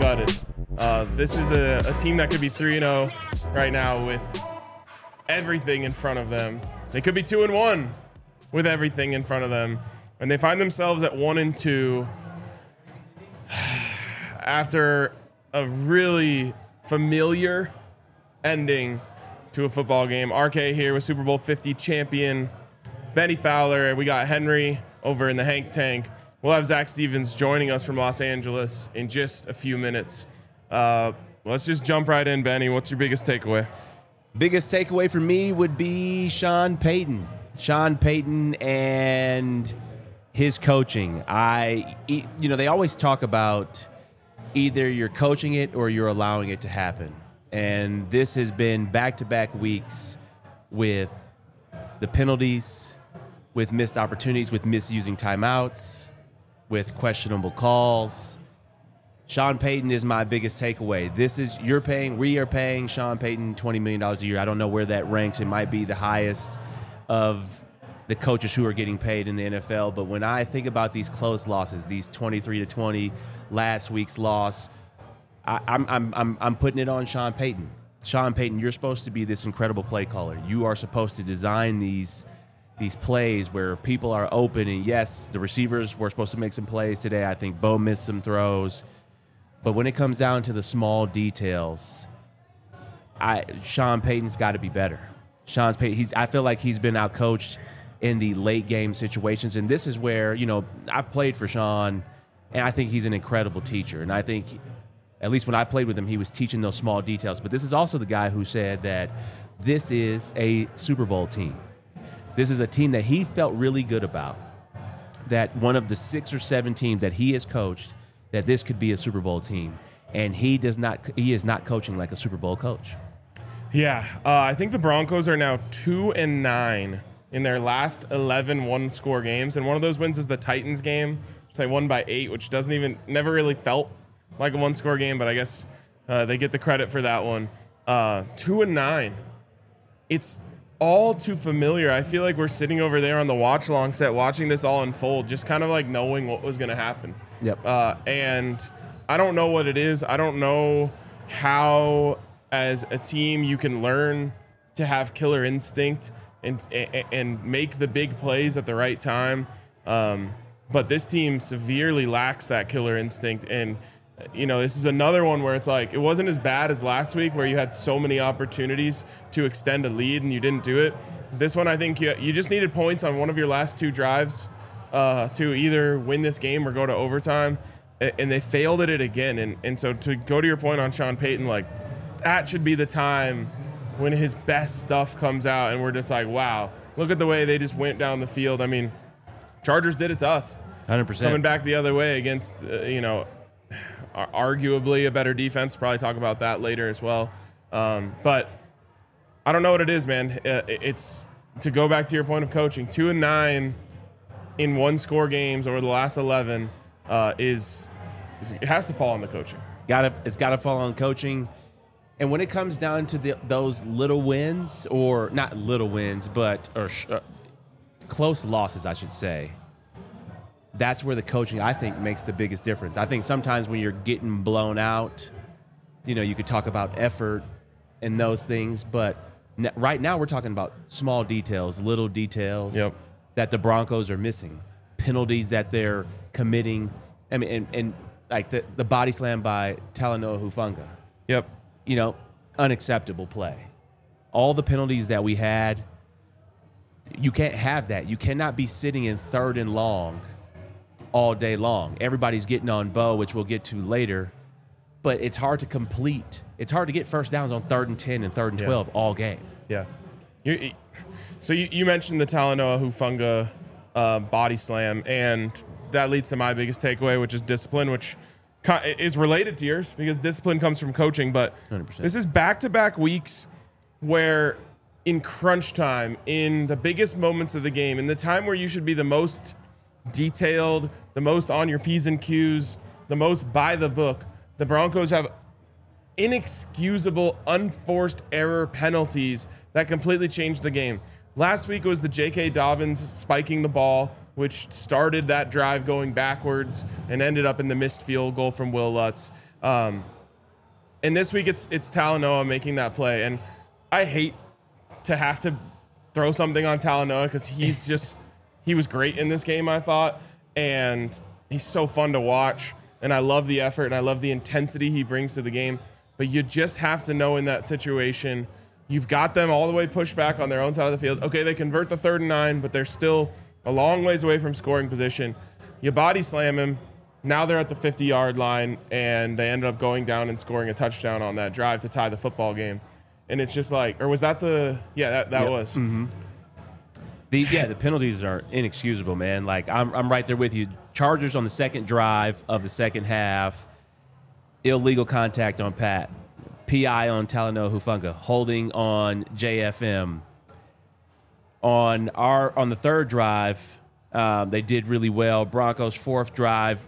gutted. This is a team that could be 3-0 right now with everything in front of them. They could be 2-1 with everything in front of them. And they find themselves at 1-2 after a really familiar ending to a football game. RK here with Super Bowl 50 champion Benny Fowler. We got Henry over in the Hank Tank. We'll have Zach Stevens joining us from Los Angeles in just a few minutes. Let's just jump right in, Benny. What's your biggest takeaway? Biggest takeaway for me would be Sean Payton. Sean Payton and his coaching. They always talk about either you're coaching it or you're allowing it to happen. And this has been back-to-back weeks with the penalties, with missed opportunities, with misusing timeouts, with questionable calls. Sean Payton is my biggest takeaway. We are paying Sean Payton $20 million a year. I don't know where that ranks. It might be the highest of the coaches who are getting paid in the NFL. But when I think about these close losses, these 23-20, last week's loss, I'm putting it on Sean Payton. Sean Payton, you're supposed to be this incredible play caller. You are supposed to design these plays where people are open. And yes, the receivers were supposed to make some plays today. I think Bo missed some throws. But when it comes down to the small details, Sean Payton's got to be better. I feel like he's been outcoached in the late game situations. And this is where, I've played for Sean, and I think he's an incredible teacher. And I think, at least when I played with him, he was teaching those small details. But this is also the guy who said that this is a Super Bowl team. This is a team that he felt really good about, that one of the 6 or 7 teams that he has coached, that this could be a Super Bowl team. And he is not coaching like a Super Bowl coach. Yeah, I think the Broncos are now 2-9 in their last 11 one-score games. And one of those wins is the Titans game, which they won by 8, which never really felt like a one-score game, but I guess they get the credit for that one. 2-9. It's all too familiar. I feel like we're sitting over there on the watch-along set watching this all unfold, just kind of like knowing what was going to happen. Yep. And I don't know what it is. I don't know how, as a team, you can learn to have killer instinct and make the big plays at the right time. But this team severely lacks that killer instinct. And this is another one where it's like, it wasn't as bad as last week where you had so many opportunities to extend a lead and you didn't do it. This one, I think you just needed points on one of your last 2 drives to either win this game or go to overtime. And they failed at it again. And so to go to your point on Sean Payton, like, that should be the time when his best stuff comes out and we're just like, wow, look at the way they just went down the field. I mean, Chargers did it to us. 100%. Coming back the other way against, arguably a better defense. Probably talk about that later as well. But I don't know what it is, man. It's to go back to your point of coaching. 2-9 in one-score games over the last 11 it has to fall on the coaching. It's got to fall on coaching. And when it comes down to those little wins, or not little wins, but close losses, I should say, that's where the coaching, I think, makes the biggest difference. I think sometimes when you're getting blown out, you could talk about effort and those things, but right now we're talking about small details, little details that the Broncos are missing, penalties that they're committing. I mean, and like the body slam by Talanoa Hufanga. Yep. Unacceptable play. All the penalties that we had, you can't have that. You cannot be sitting in 3rd and long all day long. Everybody's getting on Bo, which we'll get to later, but it's hard to complete. It's hard to get first downs on 3rd and 10 and 3rd and 12 all game. Yeah. So you mentioned the Talanoa Hufanga body slam, and that leads to my biggest takeaway, which is discipline, which is related to yours because discipline comes from coaching. But 100%. This is back-to-back weeks where in crunch time, in the biggest moments of the game, in the time where you should be the most detailed, the most on your P's and Q's, the most by the book, the Broncos have inexcusable, unforced error penalties that completely changed the game. Last week it was the J.K. Dobbins spiking the ball, which started that drive going backwards and ended up in the missed field goal from Will Lutz. And this week it's Talanoa making that play, and I hate to have to throw something on Talanoa because he was great in this game, I thought, and he's so fun to watch, and I love the effort and I love the intensity he brings to the game. But you just have to know in that situation, you've got them all the way pushed back on their own side of the field. Okay, they convert the 3rd and 9, but they're still a long ways away from scoring position. You body slam him. Now they're at the 50-yard line, and they ended up going down and scoring a touchdown on that drive to tie the football game. And it's just like, or was that the? Yeah, that was. Mm-hmm. The penalties are inexcusable, man. Like I'm right there with you. Chargers on the second drive of the second half, illegal contact on Pat, PI on Talanoa Hufanga, holding on JFM. On the third drive, they did really well. Broncos' fourth drive,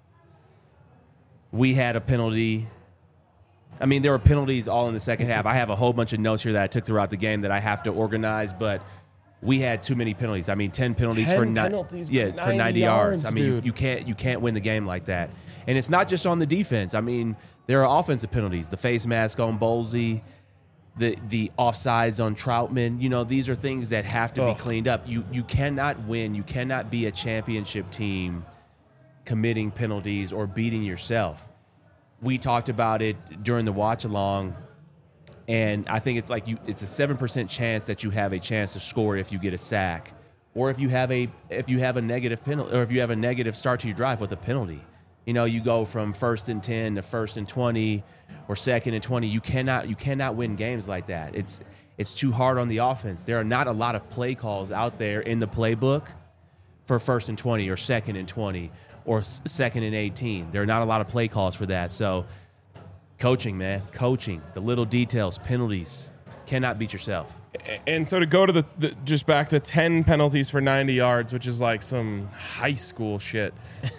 we had a penalty. I mean, there were penalties all in the second half. I have a whole bunch of notes here that I took throughout the game that I have to organize, but we had too many penalties. I mean, 10 penalties for 90 yards. I mean, you can't win the game like that. And it's not just on the defense. I mean, there are offensive penalties. The face mask on Bolsey, the offsides on Troutman. You know, these are things that have to be cleaned up. You cannot win. You cannot be a championship team committing penalties or beating yourself. We talked about it during the watch along, and I think it's like it's a 7% chance that you have a chance to score if you get a sack, or if you have a negative penalty, or if you have a negative start to your drive with a penalty. You know, you go from 1st and 10 to 1st and 20 or 2nd and 20. You cannot win games like that. It's too hard on the offense. There are not a lot of play calls out there in the playbook for 1st and 20 or 2nd and 20 or 2nd and 18. There are not a lot of play calls for that. So coaching, man, the little details, penalties, cannot beat yourself. And so to go to the just back to 10 penalties for 90 yards, which is like some high school shit.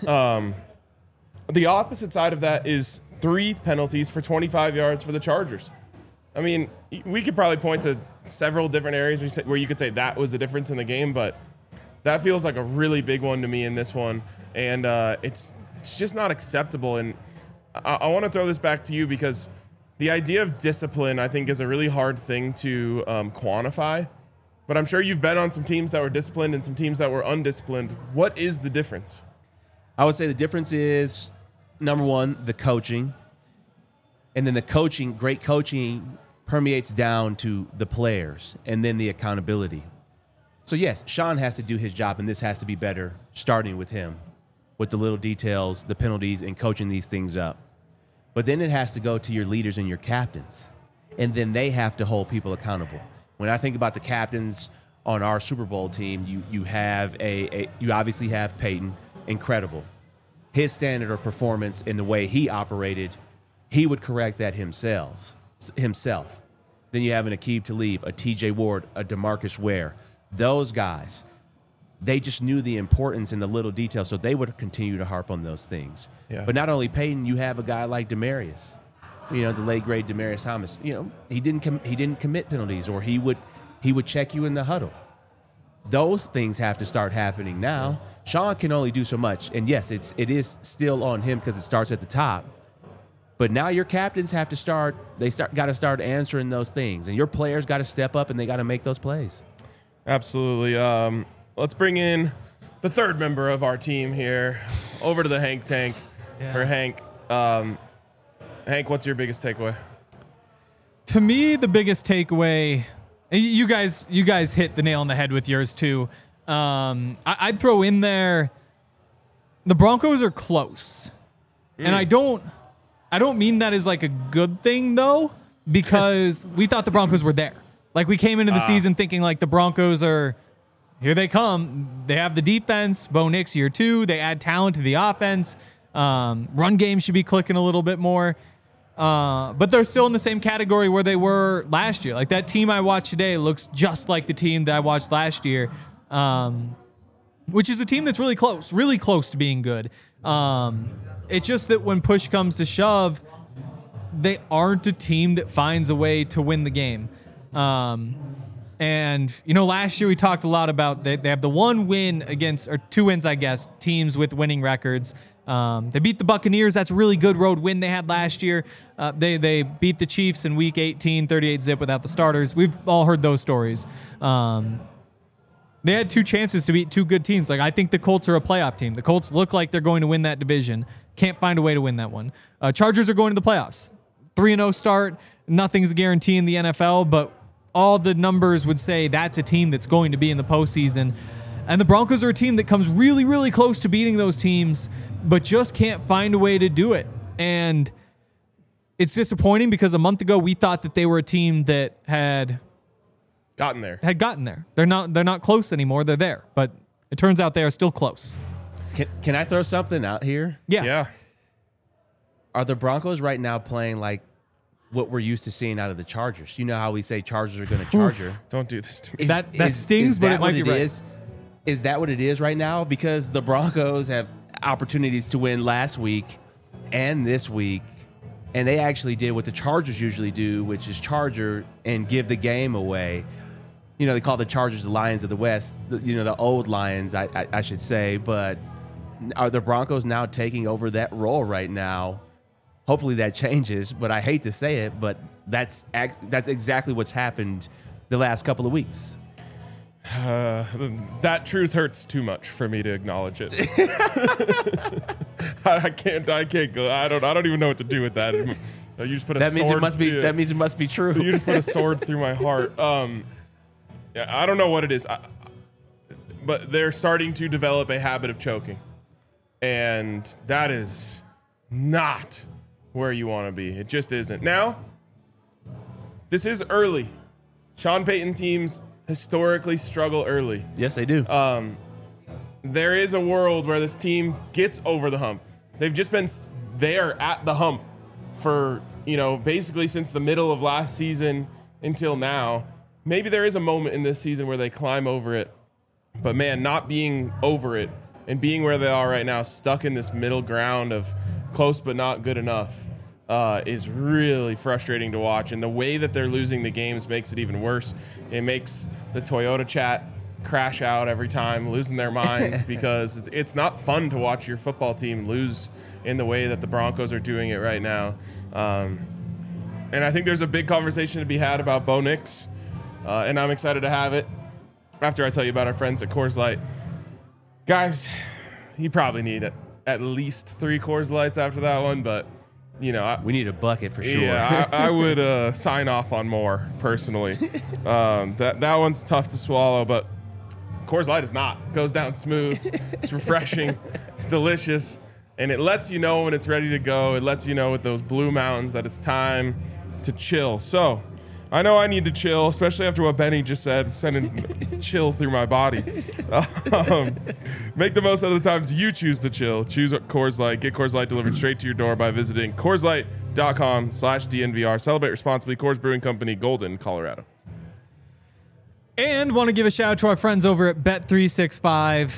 The opposite side of that is 3 penalties for 25 yards for the Chargers. I mean, we could probably point to several different areas where you could say that was the difference in the game, but that feels like a really big one to me in this one. And it's just not acceptable. And I want to throw this back to you because the idea of discipline, I think, is a really hard thing to quantify. But I'm sure you've been on some teams that were disciplined and some teams that were undisciplined. What is the difference? I would say the difference is, number one, the coaching. And then great coaching permeates down to the players and then the accountability. So, yes, Sean has to do his job, and this has to be better, starting with him, with the little details, the penalties, and coaching these things up. But then it has to go to your leaders and your captains, and then they have to hold people accountable. When I think about the captains on our Super Bowl team, you obviously have Peyton, incredible. His standard of performance in the way he operated, he would correct that himself. Then you have an Aqib Talib, a TJ Ward, a DeMarcus Ware. Those guys, they just knew the importance in the little details, so they would continue to harp on those things. Yeah. But not only Peyton, you have a guy like Demaryius, the late great Demaryius Thomas. He didn't commit penalties, or he would check you in the huddle. Those things have to start happening now. Sean can only do so much, and yes, it is still on him because it starts at the top. But now your captains have to start. Got to start answering those things, and your players got to step up and they got to make those plays. Absolutely. Let's bring in the third member of our team here over to the Hank Tank for Hank. Hank, what's your biggest takeaway? To me, the biggest takeaway, you guys hit the nail on the head with yours too. I'd throw in there, the Broncos are close. And I don't mean that as like a good thing though, because we thought the Broncos were there. Like we came into the season thinking like the Broncos are, here they come. They have the defense, Bo Nix year 2. They add talent to the offense. Run game should be clicking a little bit more. But they're still in the same category where they were last year. Like that team I watched today looks just like the team that I watched last year, which is a team that's really close to being good. It's just that when push comes to shove, they aren't a team that finds a way to win the game. And last year we talked a lot about they have the one win against, or 2 wins, I guess, teams with winning records. They beat the Buccaneers. That's a really good road win they had last year. They beat the Chiefs in Week 18, 38-zip without the starters. We've all heard those stories. They had 2 chances to beat 2 good teams. Like, I think the Colts are a playoff team. The Colts look like they're going to win that division. Can't find a way to win that one. Chargers are going to the playoffs. 3-0 start. Nothing's a guarantee in the NFL, but all the numbers would say that's a team that's going to be in the postseason. And the Broncos are a team that comes really, really close to beating those teams, but just can't find a way to do it. And it's disappointing because a month ago we thought that they were a team that had gotten there. They're not close anymore. They're there, but it turns out they are still close. Can I throw something out here? Yeah. Are the Broncos right now playing like what we're used to seeing out of the Chargers? You know how we say Chargers are going to Charger. Don't do this to me. That stings, but it might be right. Is that what it is right now? Because the Broncos have opportunities to win last week and this week, and they actually did what the Chargers usually do, which is charger and give the game away. You know, they call the Chargers the Lions of the West, the old Lions, I should say. But are the Broncos now taking over that role right now? Hopefully that changes, but I hate to say it, but that's exactly what's happened the last couple of weeks. That truth hurts too much for me to acknowledge it. I can't go. I don't even know what to do with that. You just put a that sword. That means it must be true. You just put a sword through my heart. I don't know what it is, but they're starting to develop a habit of choking, and that is not where you want to be. It just isn't. Now, this is early. Sean Payton teams historically struggle early. Yes, they do. There is a world where this team gets over the hump. They've just been there at the hump for, basically since the middle of last season until now. Maybe there is a moment in this season where they climb over it, but man, not being over it and being where they are right now, stuck in this middle ground of close but not good enough, is really frustrating to watch. And the way that they're losing the games makes it even worse. It makes the Toyota chat crash out every time, losing their minds because it's not fun to watch your football team lose in the way that the Broncos are doing it right now. And I think there's a big conversation to be had about Bo Nix, and I'm excited to have it after I tell you about our friends at Coors Light. Guys, you probably need at least 3 Coors Lights after that one, but we need a bucket for sure. Yeah, I would sign off on more personally. That one's tough to swallow, but Coors Light is not. It goes down smooth. It's refreshing. It's delicious, and it lets you know when it's ready to go. It lets you know with those Blue Mountains that it's time to chill. So I know I need to chill, especially after what Benny just said, sending chill through my body. Make the most out of the times you choose to chill. Choose Coors Light. Get Coors Light delivered straight to your door by visiting CoorsLight.com/DNVR. Celebrate responsibly. Coors Brewing Company, Golden, Colorado. And want to give a shout out to our friends over at Bet365.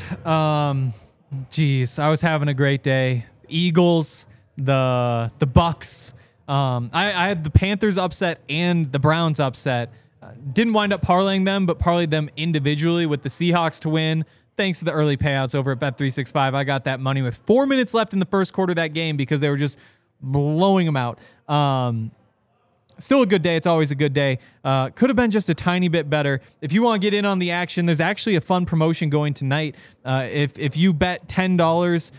I was having a great day. Eagles, the Bucks. I had the Panthers upset and the Browns upset. Didn't wind up parlaying them, but parlayed them individually with the Seahawks to win. Thanks to the early payouts over at Bet365. I got that money with 4 minutes left in the first quarter of that game because they were just blowing them out. Still a good day. It's always a good day. Could have been just a tiny bit better. If you want to get in on the action, there's actually a fun promotion going tonight. If you bet $10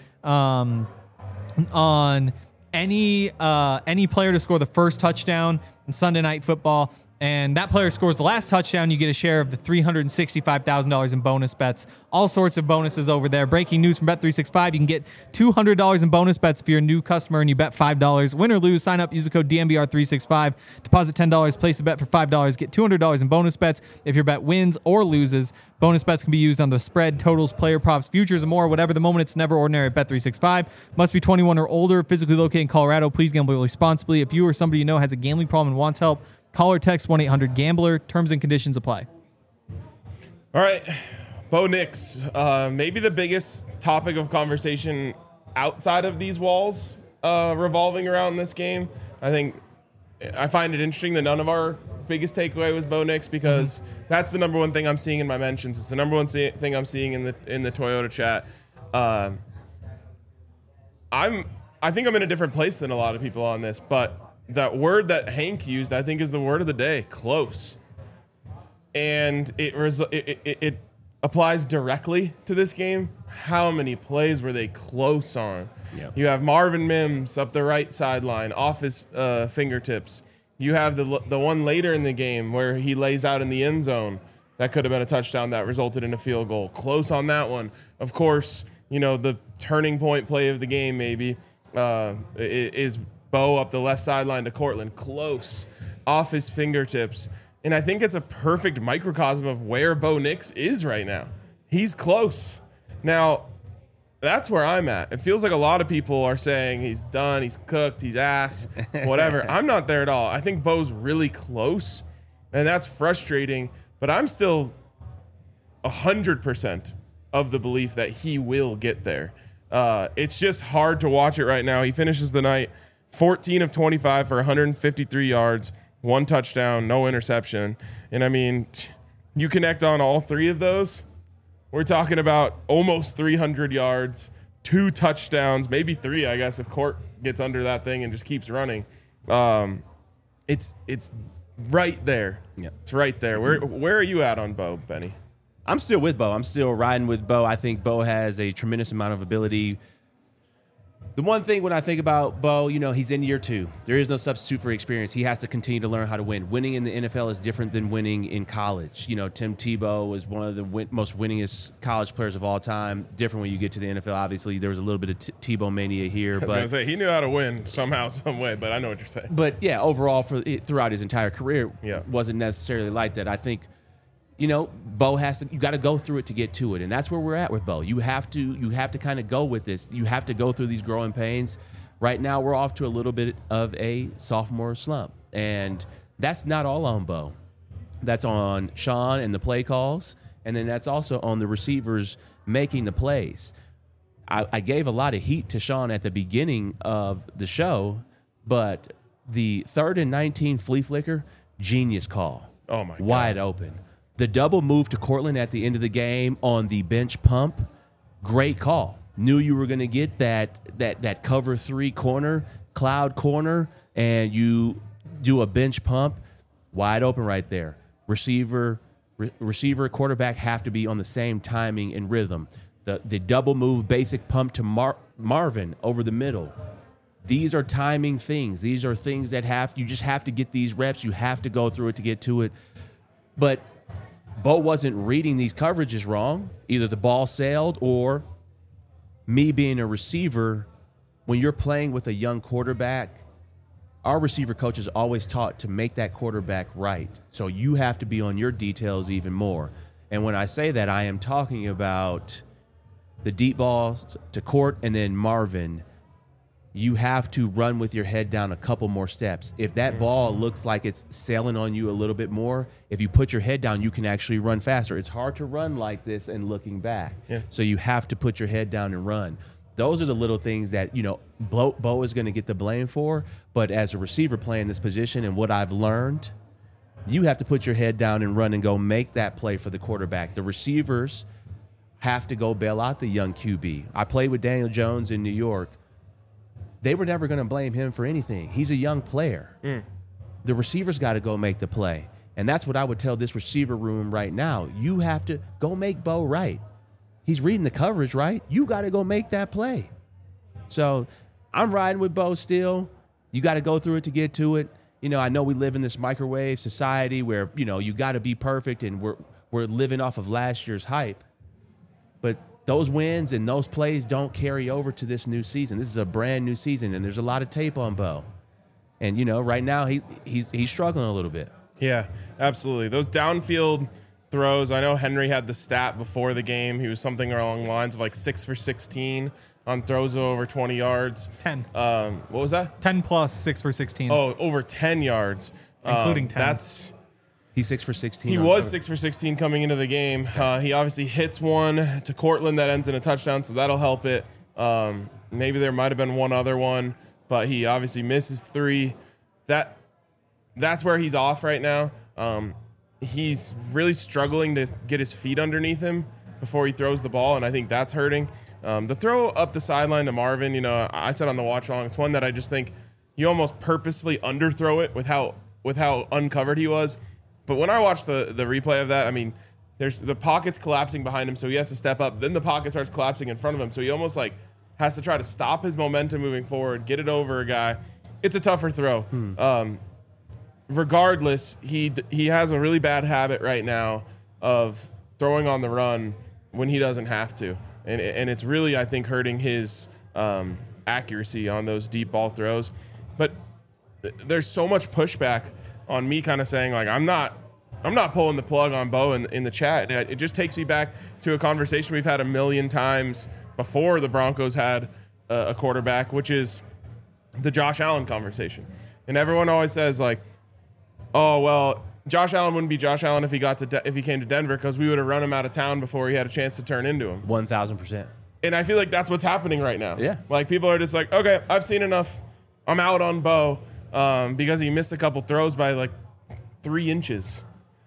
on any player to score the first touchdown in Sunday Night Football, and that player scores the last touchdown, you get a share of the $365,000 in bonus bets. All sorts of bonuses over there. Breaking news from Bet365. You can get $200 in bonus bets if you're a new customer and you bet $5. Win or lose, sign up, use the code DNVR365. Deposit $10, place a bet for $5. Get $200 in bonus bets if your bet wins or loses. Bonus bets can be used on the spread, totals, player props, futures, and more. Whatever the moment, it's never ordinary at Bet365. Must be 21 or older, physically located in Colorado. Please gamble responsibly. If you or somebody you know has a gambling problem and wants help, call or text 1-800-GAMBLER. Terms and conditions apply. All right. Bo Nix, maybe the biggest topic of conversation outside of these walls revolving around this game. I find it interesting that none of our biggest takeaway was Bo Nix because that's the number one thing I'm seeing in my mentions. It's the number one thing I'm seeing in the Toyota chat. I think I'm in a different place than a lot of people on this, but that word that Hank used, I think, is the word of the day: close. And it applies directly to this game. How many plays were they close on? Yep. You have Marvin Mims up the right sideline, off his fingertips. You have the one later in the game where he lays out in the end zone. That could have been a touchdown that resulted in a field goal. Close on that one. Of course, the turning point play of the game maybe is Bo up the left sideline to Cortland. Close, off his fingertips. And I think it's a perfect microcosm of where Bo Nix is right now. He's close. Now, that's where I'm at. It feels like a lot of people are saying he's done, he's cooked, he's ass, whatever. I'm not there at all. I think Bo's really close, and that's frustrating. But I'm still 100% of the belief that he will get there. It's just hard to watch it right now. He finishes the night 14 of 25 for 153 yards, 1 touchdown, no interception. And I mean, you connect on all 3 of those, we're talking about almost 300 yards, 2 touchdowns, maybe 3, I guess, if Court gets under that thing and just keeps running. It's right there. Yeah. It's right there. Where are you at on Bo, Benny? I'm still with Bo. I'm still riding with Bo. I think Bo has a tremendous amount of ability. The one thing when I think about Bo, he's in year 2. There is no substitute for experience. He has to continue to learn how to win. Winning in the NFL is different than winning in college. Tim Tebow was one of the most winningest college players of all time. Different when you get to the NFL. Obviously, there was a little bit of Tebow mania here. I was going to say, he knew how to win somehow, some way, but I know what you're saying. But, yeah, overall, throughout his entire career, wasn't necessarily like that. I think, Bo you got to go through it to get to it. And that's where we're at with Bo. You have to kind of go with this. You have to go through these growing pains. Right now, we're off to a little bit of a sophomore slump. And that's not all on Bo. That's on Sean and the play calls. And then that's also on the receivers making the plays. I gave a lot of heat to Sean at the beginning of the show, but the 3rd and 19 flea flicker, genius call. Oh, my God. Wide open. The double move to Cortland at the end of the game on the bench pump, great call. Knew you were going to get that cover 3 corner, cloud corner, and you do a bench pump, wide open right there. Receiver, quarterback have to be on the same timing and rhythm. The double move, basic pump to Marvin over the middle. These are timing things. These are things that you just have to get these reps. You have to go through it to get to it. But Bo wasn't reading these coverages wrong. Either the ball sailed or me being a receiver, when you're playing with a young quarterback, our receiver coach is always taught to make that quarterback right. So you have to be on your details even more. And when I say that, I am talking about the deep balls to Court and then Marvin. You have to run with your head down a couple more steps. If that ball looks like it's sailing on you a little bit more, if you put your head down, you can actually run faster. It's hard to run like this and looking back. Yeah. So you have to put your head down and run. Those are the little things that, Bo is going to get the blame for. But as a receiver playing this position and what I've learned, you have to put your head down and run and go make that play for the quarterback. The receivers have to go bail out the young QB. I played with Daniel Jones in New York. They were never going to blame him for anything. He's a young player. The receivers got to go make the play. And that's what I would tell this receiver room right now. You have to go make Bo right. He's reading the coverage right. You got to go make that play. So I'm riding with Bo still. You got to go through it to get to it. I know we live in this microwave society where, you got to be perfect and we're living off of last year's hype. But those wins and those plays don't carry over to this new season. This is a brand new season, and there's a lot of tape on Bo. And, right now he's struggling a little bit. Yeah, absolutely. Those downfield throws, I know Henry had the stat before the game. He was something along the lines of like 6 for 16 on throws of over 20 yards. 10. What was that? 10 plus 6 for 16. Oh, over 10 yards. Including 10. He's 6 for 16. He was 6 for 16 coming into the game. He obviously hits one to Cortland that ends in a touchdown, so that'll help it. Maybe there might have been one other one, but he obviously misses 3. That's where he's off right now. He's really struggling to get his feet underneath him before he throws the ball, and I think that's hurting. The throw up the sideline to Marvin, I said on the watch along, it's one that I just think you almost purposefully underthrow it with how uncovered he was. But when I watched the replay of that, I mean, there's the pocket's collapsing behind him, so he has to step up. Then the pocket starts collapsing in front of him, so he almost like has to try to stop his momentum moving forward, get it over a guy. It's a tougher throw. Regardless, he has a really bad habit right now of throwing on the run when he doesn't have to, and it's really, I think, hurting his accuracy on those deep ball throws. But there's so much pushback on me kind of saying like I'm not pulling the plug on Bo in the chat. It just takes me back to a conversation we've had a million times before the Broncos had a quarterback, which is the Josh Allen conversation. And everyone always says like, oh, well, Josh Allen wouldn't be Josh Allen if he came to Denver because we would have run him out of town before he had a chance to turn into him. 1,000%. And I feel like that's what's happening right now. Yeah. Like people are just like, okay, I've seen enough. I'm out on Bo because he missed a couple throws by like 3 inches.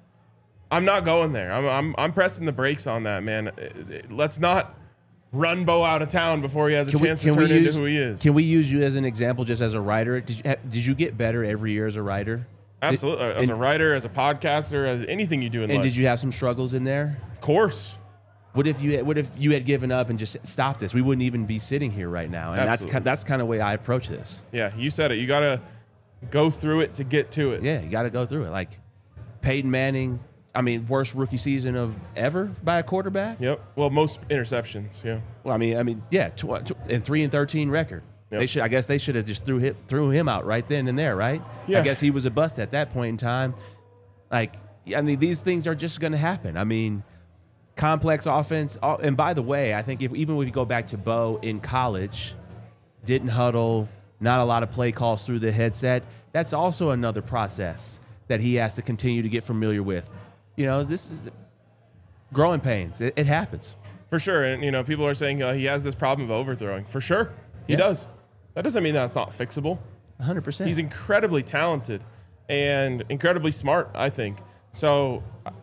I'm not going there. I'm pressing the brakes on that, man. Let's not run Bo out of town before he has a chance to turn into who he is. Can we use you as an example just as a writer? Did you get better every year as a writer? Absolutely. As a writer, as a podcaster, as anything you do in life. And did you have some struggles in there? Of course. What if you had given up and just stopped this? We wouldn't even be sitting here right now. And Absolutely. that's kind of the way I approach this. Yeah, you said it. You got to go through it to get to it. Yeah, you got to go through it. Like Peyton Manning, I mean, worst rookie season of ever by a quarterback. Yep. Well, most interceptions. Yeah. Well, I mean, yeah, and 3-13 record. Yep. I guess they should have just threw him out right then and there, right? Yeah. I guess he was a bust at that point in time. Like, I mean, these things are just going to happen. I mean, complex offense. And by the way, I think even if you go back to Bo in college, didn't huddle, not a lot of play calls through the headset. That's also another process that he has to continue to get familiar with. This is growing pains. It happens. For sure. And, people are saying he has this problem of overthrowing. For sure. He does. That doesn't mean that's not fixable. 100%. He's incredibly talented and incredibly smart, I think. So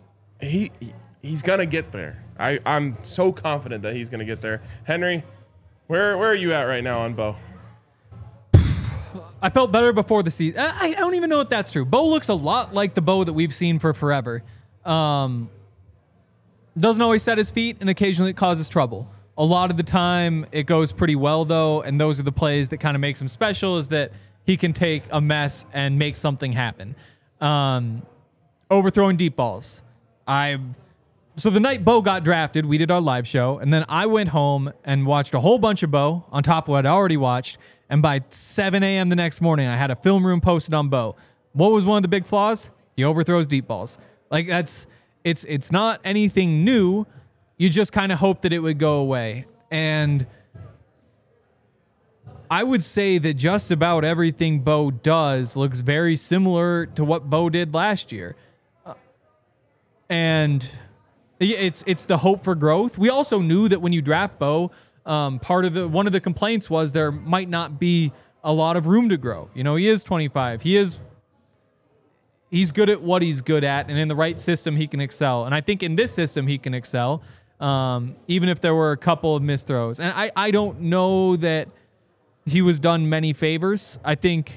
he's going to get there. I'm so confident that he's going to get there. Henry, where are you at right now on Bo? I felt better before the season. I don't even know if that's true. Bo looks a lot like the Bo that we've seen for forever. Doesn't always set his feet, and occasionally it causes trouble. A lot of the time, it goes pretty well, though, and those are the plays that kind of makes him special, is that he can take a mess and make something happen. Overthrowing deep balls. So the night Bo got drafted, we did our live show, and then I went home and watched a whole bunch of Bo on top of what I'd already watched, and by 7 a.m. the next morning, I had a film room posted on Bo. What was one of the big flaws? He overthrows deep balls. Like, it's not anything new. You just kind of hope that it would go away. And I would say that just about everything Bo does looks very similar to what Bo did last year. And it's the hope for growth. We also knew that when you draft Bo, one of the complaints was there might not be a lot of room to grow. He is 25. He's good at what he's good at, and in the right system, he can excel. And I think in this system, he can excel. Even if there were a couple of missed throws. And I don't know that he was done many favors. I think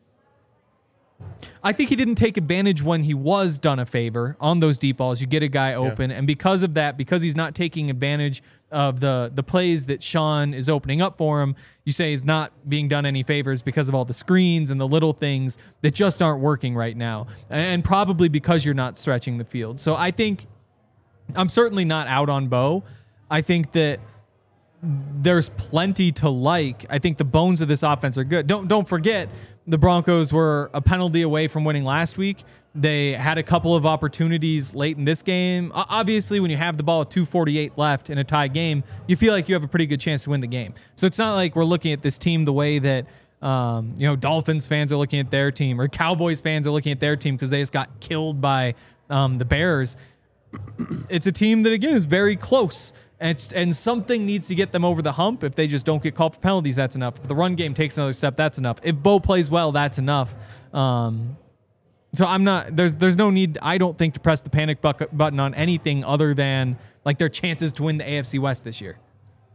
he didn't take advantage when he was done a favor on those deep balls. You get a guy open, and because of that, because he's not taking advantage of the plays that Sean is opening up for him, you say he's not being done any favors because of all the screens and the little things that just aren't working right now. And probably because you're not stretching the field. So I think I'm certainly not out on Bo. I think that there's plenty to like. I think the bones of this offense are good. Don't forget, the Broncos were a penalty away from winning last week. They had a couple of opportunities late in this game. Obviously, when you have the ball at 2:48 left in a tie game, you feel like you have a pretty good chance to win the game. So it's not like we're looking at this team the way that Dolphins fans are looking at their team, or Cowboys fans are looking at their team because they just got killed by the Bears. It's a team that, again, is very close. And something needs to get them over the hump. If they just don't get called for penalties, that's enough. If the run game takes another step, that's enough. If Bo plays well, that's enough. So I'm not. There's no need, I don't think, to press the panic button on anything other than like their chances to win the AFC West this year.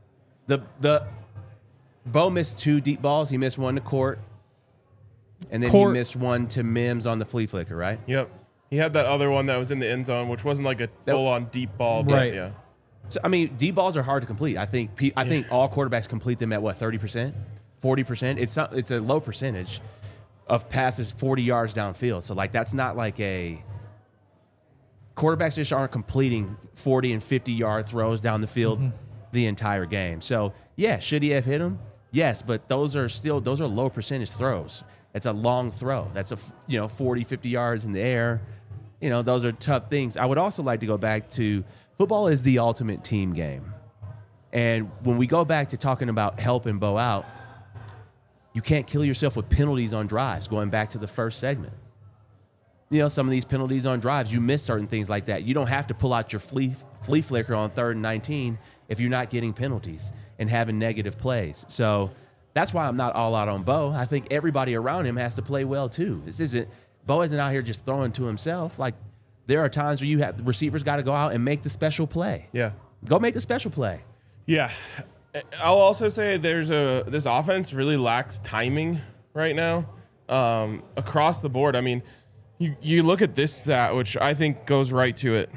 The Bo missed 2 deep balls. He missed one to Court, and then Court. he missed one to Mims on the flea flicker, right? Yep. He had that other one that was in the end zone, which wasn't like a full-on deep ball. But Right. Yeah. So I mean, deep balls are hard to complete. I think all quarterbacks complete them at what, 30%, 40%. It's a low percentage of passes 40 yards downfield. So like that's not like a quarterbacks just aren't completing 40 and 50-yard throws down the field the entire game. So yeah, should he have hit him? Yes, but those are low percentage throws. It's a long throw. That's 40, 50 yards in the air. Those are tough things. I would also like to go back to football is the ultimate team game. And when we go back to talking about helping Bo out, you can't kill yourself with penalties on drives, going back to the first segment. Some of these penalties on drives, you miss certain things like that. You don't have to pull out your flea flicker on 3rd and 19 if you're not getting penalties and having negative plays. So that's why I'm not all out on Bo. I think everybody around him has to play well too. Bo isn't out here just throwing to himself. Like there are times where the receivers got to go out and make the special play. Yeah. Go make the special play. Yeah. I'll also say this offense really lacks timing right now across the board. I mean, you look at this stat, which I think goes right to it.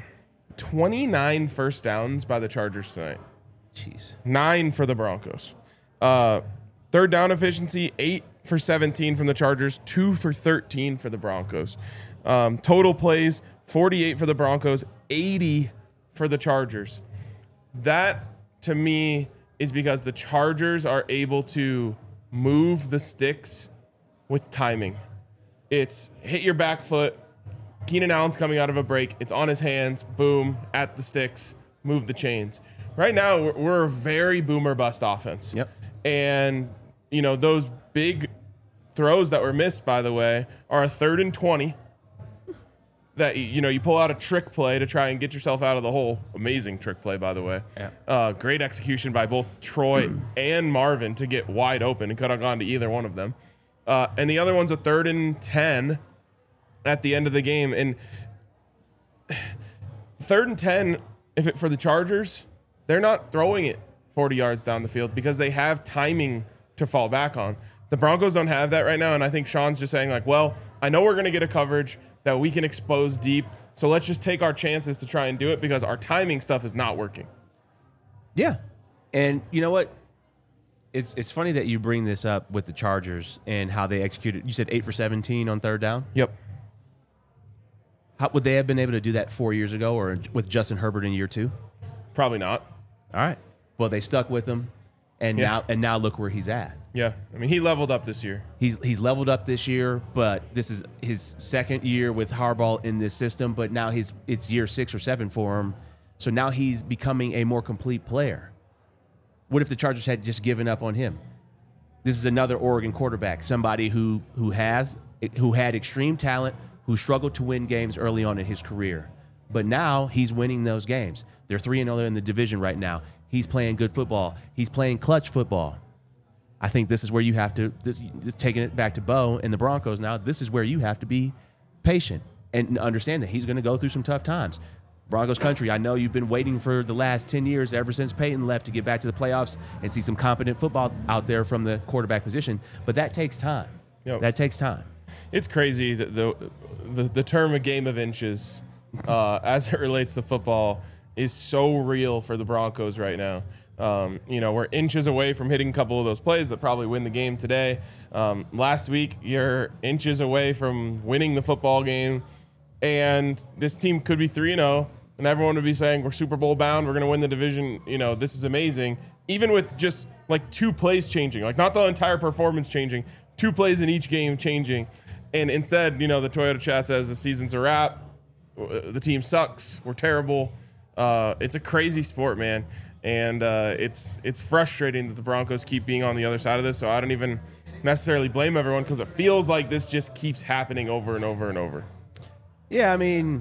29 first downs by the Chargers tonight. Jeez. 9 for the Broncos. Third down efficiency, 8 for 17 from the Chargers, 2 for 13 for the Broncos. Total plays, 48 for the Broncos, 80 for the Chargers. That, to me, is because the Chargers are able to move the sticks with timing. It's hit your back foot. Keenan Allen's coming out of a break. It's on his hands. Boom, at the sticks. Move the chains. Right now, we're a very boomer bust offense. Yep. And, those big throws that were missed, by the way, are a 3rd and 20 that, you pull out a trick play to try and get yourself out of the hole. Amazing trick play, by the way. Yeah. Great execution by both Troy and Marvin to get wide open. It could have gone to either one of them. And the other one's a 3rd and 10 at the end of the game. And 3rd and 10, for the Chargers, they're not throwing it 40 yards down the field because they have timing to fall back on. The Broncos don't have that right now, and I think Sean's just saying, like, well, I know we're going to get a coverage that we can expose deep, so let's just take our chances to try and do it because our timing stuff is not working. Yeah. And you know what? It's funny that you bring this up with the Chargers and how they executed. You said 8 for 17 on 3rd down? Yep. How would they have been able to do that 4 years ago or with Justin Herbert in year 2? Probably not. All right. Well, they stuck with him, and now look where he's at. Yeah. I mean, he leveled up this year. He's leveled up this year, but this is his 2nd year with Harbaugh in this system, but now it's year 6 or 7 for him. So now he's becoming a more complete player. What if the Chargers had just given up on him? This is another Oregon quarterback, somebody who had extreme talent, who struggled to win games early on in his career. But now he's winning those games. They're 3-0 in the division right now. He's playing good football. He's playing clutch football. I think this is where you have to, taking it back to Bo and the Broncos now, this is where you have to be patient and understand that he's going to go through some tough times. Broncos country, I know you've been waiting for the last 10 years, ever since Peyton left, to get back to the playoffs and see some competent football out there from the quarterback position. But that takes time. Yep. That takes time. It's crazy that the term a game of inches as it relates to football is so real for the Broncos right now. We're inches away from hitting a couple of those plays that probably win the game today. Last week, you're inches away from winning the football game. And this team could be 3-0, and everyone would be saying, we're Super Bowl bound, we're going to win the division, this is amazing. Even with just, 2 plays changing, not the entire performance changing, 2 plays in each game changing. And instead, the Toyota chat says the season's a wrap, the team sucks, we're terrible. It's a crazy sport, man. And it's frustrating that the Broncos keep being on the other side of this, so I don't even necessarily blame everyone because it feels like this just keeps happening over and over and over. Yeah, I mean,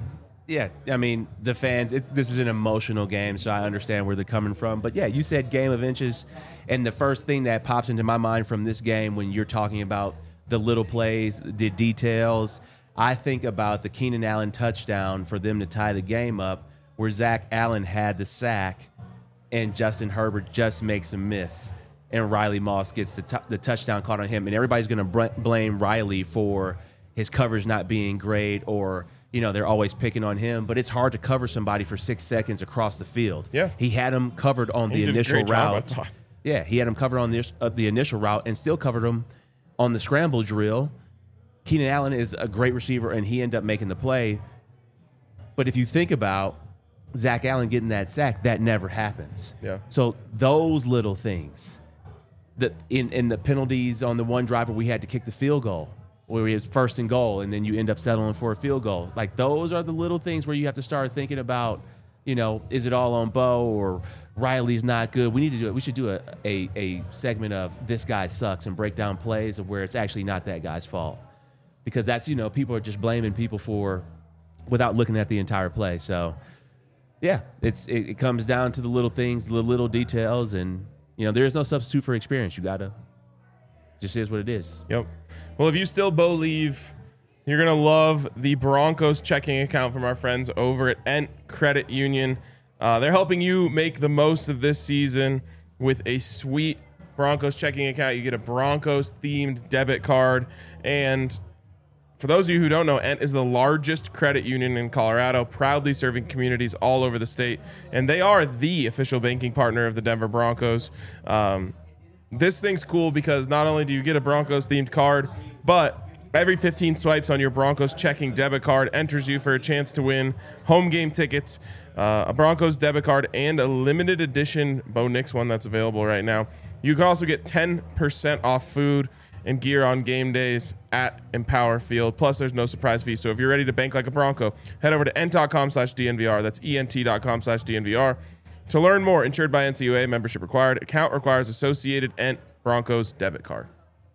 the fans, this is an emotional game, so I understand where they're coming from. But, yeah, you said game of inches, and the first thing that pops into my mind from this game when you're talking about the little plays, the details, I think about the Keenan Allen touchdown for them to tie the game up, where Zach Allen had the sack, and Justin Herbert just makes a miss, and Riley Moss gets the touchdown caught on him, and everybody's going to blame Riley for his coverage not being great, or they're always picking on him. But it's hard to cover somebody for 6 seconds across the field. Yeah, he had him covered on the initial route. Yeah, he had him covered on the initial route, and still covered him on the scramble drill. Keenan Allen is a great receiver, and he ended up making the play. But if you think about Zach Allen getting that sack, that never happens. Yeah. So those little things, that in the penalties on the one drive where we had to kick the field goal, where we had 1st and goal, and then you end up settling for a field goal. Like, those are the little things where you have to start thinking about, is it all on Bo, or Riley's not good? We need to do it. We should do a segment of this guy sucks and break down plays of where it's actually not that guy's fault, because that's people are just blaming people without looking at the entire play. So, yeah, it comes down to the little things, the little details, and there is no substitute for experience. You gotta, just is what it is. Yep. Well, if you still believe, you're gonna love the Broncos checking account from our friends over at Ent Credit Union. They're helping you make the most of this season with a sweet Broncos checking account. You get a Broncos themed debit card, and for those of you who don't know, Ent is the largest credit union in Colorado, proudly serving communities all over the state, and they are the official banking partner of the Denver Broncos. This thing's cool because not only do you get a Broncos-themed card, but every 15 swipes on your Broncos checking debit card enters you for a chance to win home game tickets, a Broncos debit card, and a limited edition Bo Nix one that's available right now. You can also get 10% off food and gear on game days at Empower Field. Plus, there's no surprise fee. So if you're ready to bank like a Bronco, head over to ent.com/DNVR. That's ent.com/DNVR. To learn more, insured by NCUA, membership required. Account requires associated Ent Broncos debit card.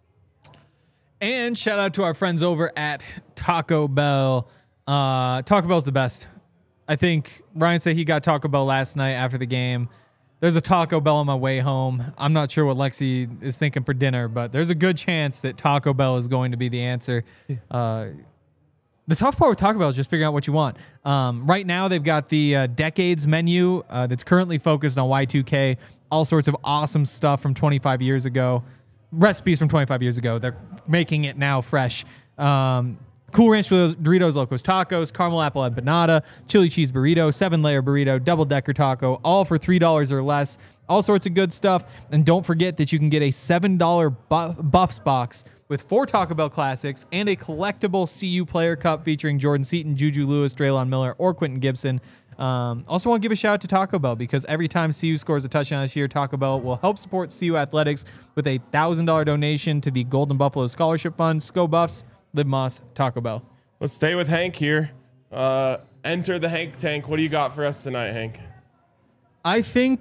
And shout out to our friends over at Taco Bell. Taco Bell's the best. I think Ryan said he got Taco Bell last night after the game. There's a Taco Bell on my way home. I'm not sure what Lexi is thinking for dinner, but there's a good chance that Taco Bell is going to be the answer. The tough part with Taco Bell is just figuring out what you want. Right now, they've got the Decades menu that's currently focused on Y2K. All sorts of awesome stuff from 25 years ago. Recipes from 25 years ago. They're making it now fresh. Cool Ranch Doritos Locos Tacos, Caramel Apple Empanada, Chili Cheese Burrito, 7-layer burrito, double-decker taco, all for $3 or less. All sorts of good stuff. And don't forget that you can get a $7 Buffs box with 4 Taco Bell classics and a collectible CU Player Cup featuring Jordan Seaton, Juju Lewis, Draylon Miller, or Quentin Gibson. Also want to give a shout out to Taco Bell because every time CU scores a touchdown this year, Taco Bell will help support CU athletics with a $1,000 donation to the Golden Buffalo Scholarship Fund. Go Buffs, Live Moss, Taco Bell. Let's stay with Hank here. Enter the Hank tank. What do you got for us tonight, Hank? I think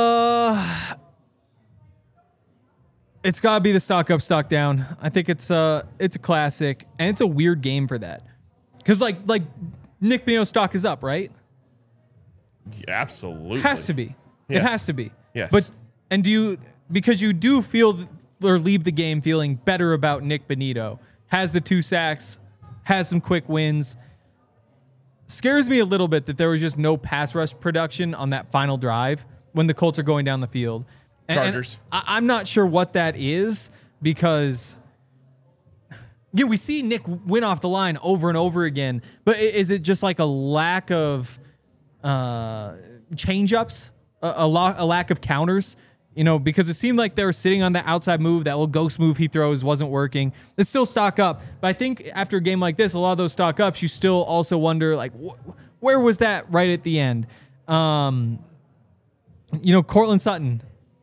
it's got to be the stock up, stock down. I think it's a classic, and it's a weird game for that. Because like Nick Bonitto's stock is up, right? Yeah, absolutely. Has to be. Yes. It has to be. Yes. But because you do feel or leave the game feeling better about Nick Bonitto. Has the 2 sacks, has some quick wins. Scares me a little bit that there was just no pass rush production on that final drive when the Colts are going down the field. Chargers. And I'm not sure what that is because we see Nick win off the line over and over again, but is it just like a lack of change-ups, a lack of counters? Because it seemed like they were sitting on the outside move. That little ghost move he throws wasn't working. It's still stock up. But I think after a game like this, a lot of those stock ups, you still also wonder, like, where was that right at the end? Cortland Sutton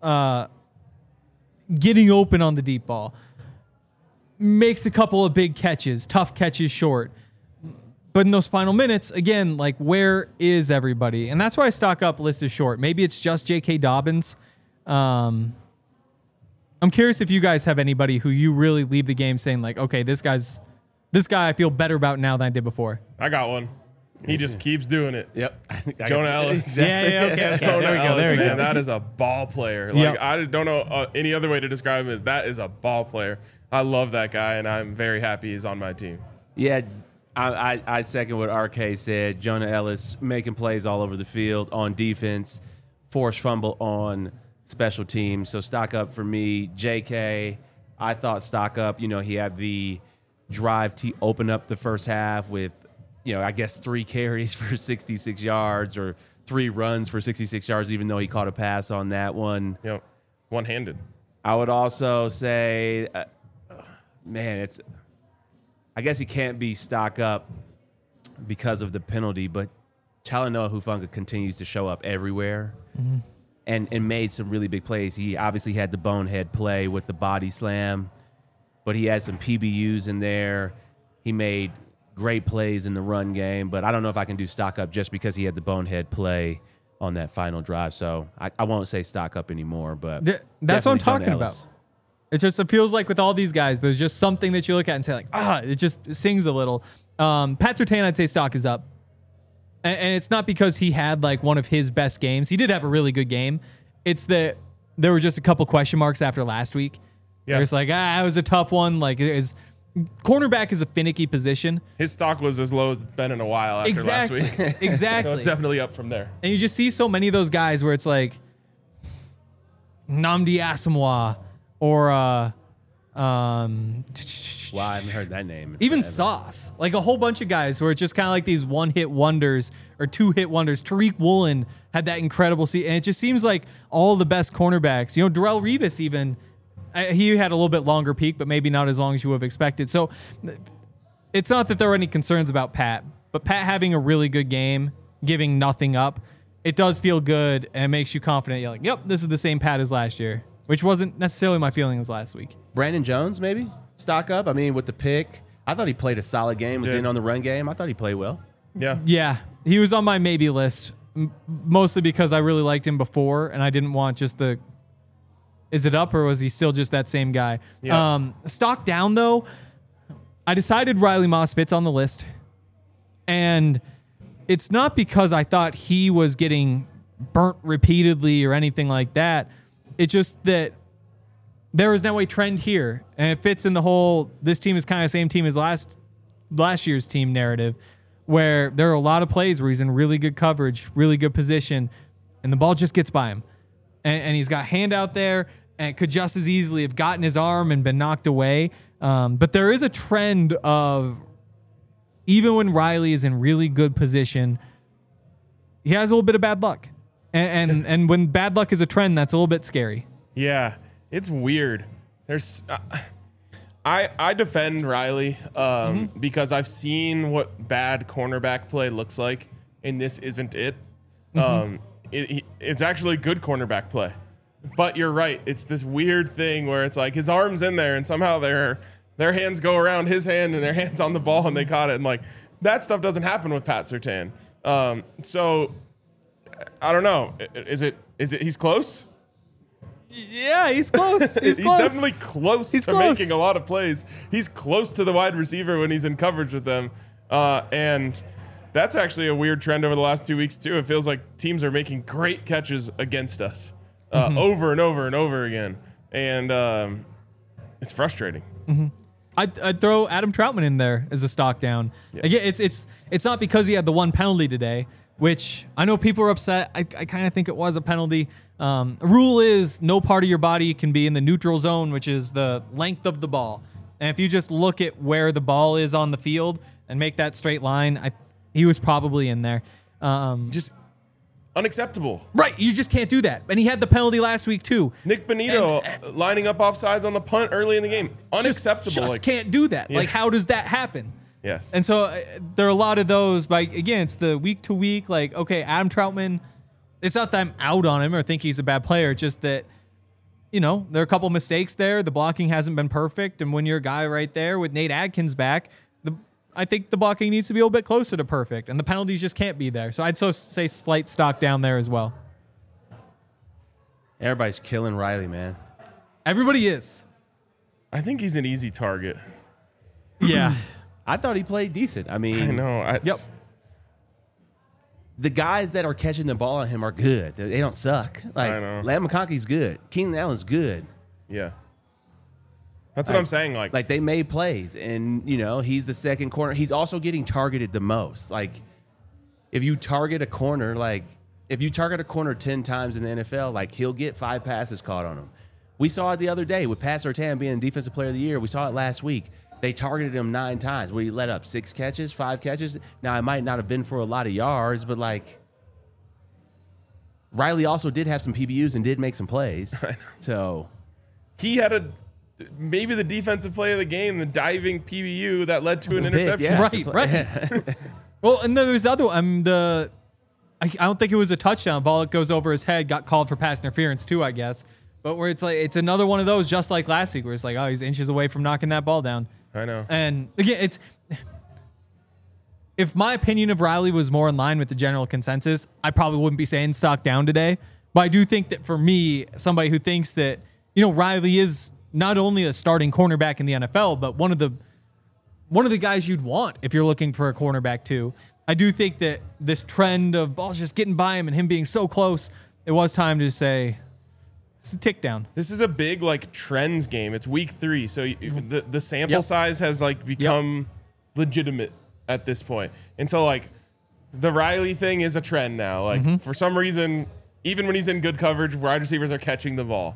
getting open on the deep ball. Makes a couple of big catches, tough catches short. But in those final minutes, again, like, where is everybody? And that's why stock up list is short. Maybe it's just J.K. Dobbins. I'm curious if you guys have anybody who you really leave the game saying like, okay, this guy I feel better about now than I did before. I got one. He just keeps doing it. Yep. Jonah Ellis. Exactly. Yeah, okay. Jonah There we go. Ellis, There we man, go. that is a ball player. Like, Yep. I don't know any other way to describe him as that is a ball player. I love that guy, and I'm very happy he's on my team. Yeah, I second what RK said. Jonah Ellis making plays all over the field on defense, forced fumble on special teams. So stock up for me. JK, I thought stock up. He had the drive to open up the first half with, I guess 3 carries for 66 yards or 3 runs for 66 yards, even though he caught a pass on that one. One-handed. I would also say, I guess he can't be stock up because of the penalty, but Talanoa Hufanga continues to show up everywhere and made some really big plays. He obviously had the bonehead play with the body slam, but he had some PBUs in there. He made great plays in the run game, but I don't know if I can do stock up just because he had the bonehead play on that final drive. So I won't say stock up anymore, but that's what I'm definitely John talking Ellis. about. It feels like with all these guys, there's just something that you look at and say like, it just sings a little. Pat Surtain, I'd say stock is up. And it's not because he had like one of his best games. He did have a really good game. It's that there were just a couple question marks after last week. Yeah. It's like, it was a tough one. Like, cornerback is a finicky position. His stock was as low as it's been in a while after last week. Exactly. So it's definitely up from there. And you just see so many of those guys where it's like Nnamdi Asomugha or Wow, I haven't heard that name. Even Sauce. Like a whole bunch of guys who are just kind of like these one-hit wonders or two-hit wonders. Tariq Woolen had that incredible season. And it just seems like all the best cornerbacks, Darrelle Revis even, he had a little bit longer peak, but maybe not as long as you would have expected. So it's not that there are any concerns about Pat, but Pat having a really good game, giving nothing up, it does feel good and it makes you confident. You're like, yep, this is the same Pat as last year, which wasn't necessarily my feelings last week. Brandon Jones, maybe? Stock up? I mean, with the pick. I thought he played a solid game, was in on the run game. I thought he played well. Yeah. He was on my maybe list, mostly because I really liked him before, and I didn't want just the, is it up or was he still just that same guy? Yeah. Stock down, though, I decided Riley Moss fits on the list, and it's not because I thought he was getting burnt repeatedly or anything like that. It's just that there is now a trend here, and it fits in the whole, this team is kind of the same team as last year's team narrative, where there are a lot of plays where he's in really good coverage, really good position, and the ball just gets by him. And he's got hand out there, and it could just as easily have gotten his arm and been knocked away. But there is a trend of, even when Riley is in really good position, he has a little bit of bad luck. And when bad luck is a trend, that's a little bit scary. Yeah. It's weird. There's, I defend Riley because I've seen what bad cornerback play looks like, and this isn't it. It's actually good cornerback play, but you're right. It's this weird thing where it's like his arm's in there, and somehow their hands go around his hand, and their hands on the ball, and they caught it. And like that stuff doesn't happen with Pat Surtain. So I don't know. Is it? He's close. Yeah, he's close. He's definitely close to close. making a lot of plays. He's close to the wide receiver when he's in coverage with them. And that's actually a weird trend over the last 2 weeks, too. It feels like teams are making great catches against us over and over and over again. And it's frustrating. I'd throw Adam Troutman in there as a stock down. Yeah. Again, it's not because he had the one penalty today, which I know people are upset. I kind of think it was a penalty. Rule is no part of your body can be in the neutral zone, which is the length of the ball. And if you just look at where the ball is on the field and make that straight line, he was probably in there. Just unacceptable. Right. You just can't do that. And he had the penalty last week, too. Nick Bonito lining up offsides on the punt early in the game. Unacceptable. Just can't do that. Yeah. Like, how does that happen? Yes. And so there are a lot of those, but again, it's the week to week, like, okay, Adam Troutman, it's not that I'm out on him or think he's a bad player, just that, there are a couple mistakes there. The blocking hasn't been perfect. And when you're a guy right there with Nate Adkins back, I think the blocking needs to be a little bit closer to perfect, and the penalties just can't be there. So I'd say slight stock down there as well. Everybody's killing Riley, man. Everybody is. I think he's an easy target. Yeah. I thought he played decent. I mean, I know. Yep. The guys that are catching the ball on him are good. They don't suck. Like, I know. Lamb McConkey's good. Keenan Allen's good. Yeah. That's what I'm saying. Like they made plays, and he's the second corner. He's also getting targeted the most. Like, if you target a corner, like if you target a corner 10 times in the NFL, like he'll get 5 passes caught on him. We saw it the other day with Pat Surtain being Defensive Player of the Year. We saw it last week. They targeted him 9 times. Where he let up 6 catches, 5 catches. Now, it might not have been for a lot of yards, but like Riley also did have some PBUs and did make some plays. So he had maybe the defensive play of the game, the diving PBU that led to an interception. Yeah. Right. Well, and then there's the other one. I don't think it was a touchdown. Ball that goes over his head got called for pass interference too, I guess. But where it's like it's another one of those, just like last week, where it's like, oh, he's inches away from knocking that ball down. I know. And again, if my opinion of Riley was more in line with the general consensus, I probably wouldn't be saying stock down today. But I do think that for me, somebody who thinks that, Riley is not only a starting cornerback in the NFL, but one of the guys you'd want if you're looking for a cornerback too. I do think that this trend of balls just getting by him and him being so close, it was time to say, it's a tick down. This is a big trends game. It's week 3, so the sample size has become legitimate at this point. And so the Riley thing is a trend now. For some reason, even when he's in good coverage, wide receivers are catching the ball.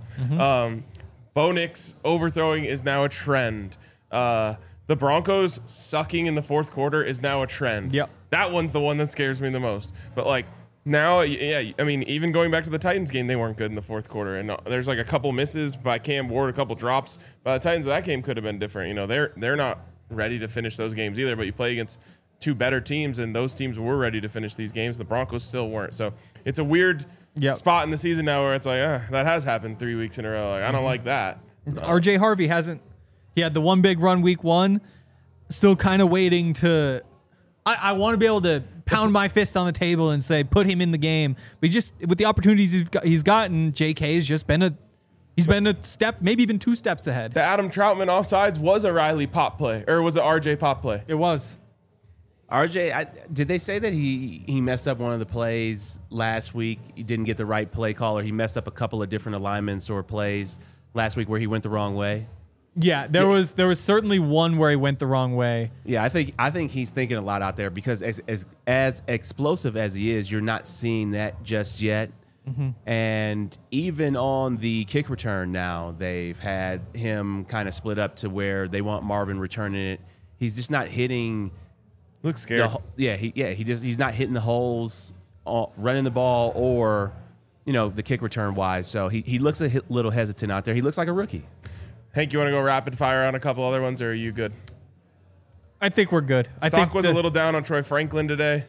Bo Nix overthrowing is now a trend. The Broncos sucking in the fourth quarter is now a trend. Yep. That one's the one that scares me the most. But now, even going back to the Titans game, they weren't good in the fourth quarter. And there's a couple misses by Cam Ward, a couple drops. By the Titans, that game could have been different. They're not ready to finish those games either, but you play against 2 better teams, and those teams were ready to finish these games. The Broncos still weren't. So it's a weird spot in the season now where it's that has happened 3 weeks in a row. I don't like that. RJ Harvey he had the one big run week 1, still kind of waiting to. I want to be able to pound my fist on the table and say, put him in the game. But just with the opportunities he's gotten, JK has just been a step, maybe even 2 steps ahead. The Adam Troutman offsides was a Riley pop play, or was it RJ pop play? It was. RJ, did they say that he messed up one of the plays last week? He didn't get the right play call, or he messed up a couple of different alignments or plays last week where he went the wrong way? Yeah, there was certainly one where he went the wrong way. Yeah, I think he's thinking a lot out there because as explosive as he is, you're not seeing that just yet. And even on the kick return now, they've had him kind of split up to where they want Marvin returning it. He's just not hitting. Looks scared. He's not hitting the holes, running the ball, or the kick return wise. So he looks a little hesitant out there. He looks like a rookie. Hank, you want to go rapid fire on a couple other ones, or are you good? I think we're good. Stock was a little down on Troy Franklin today.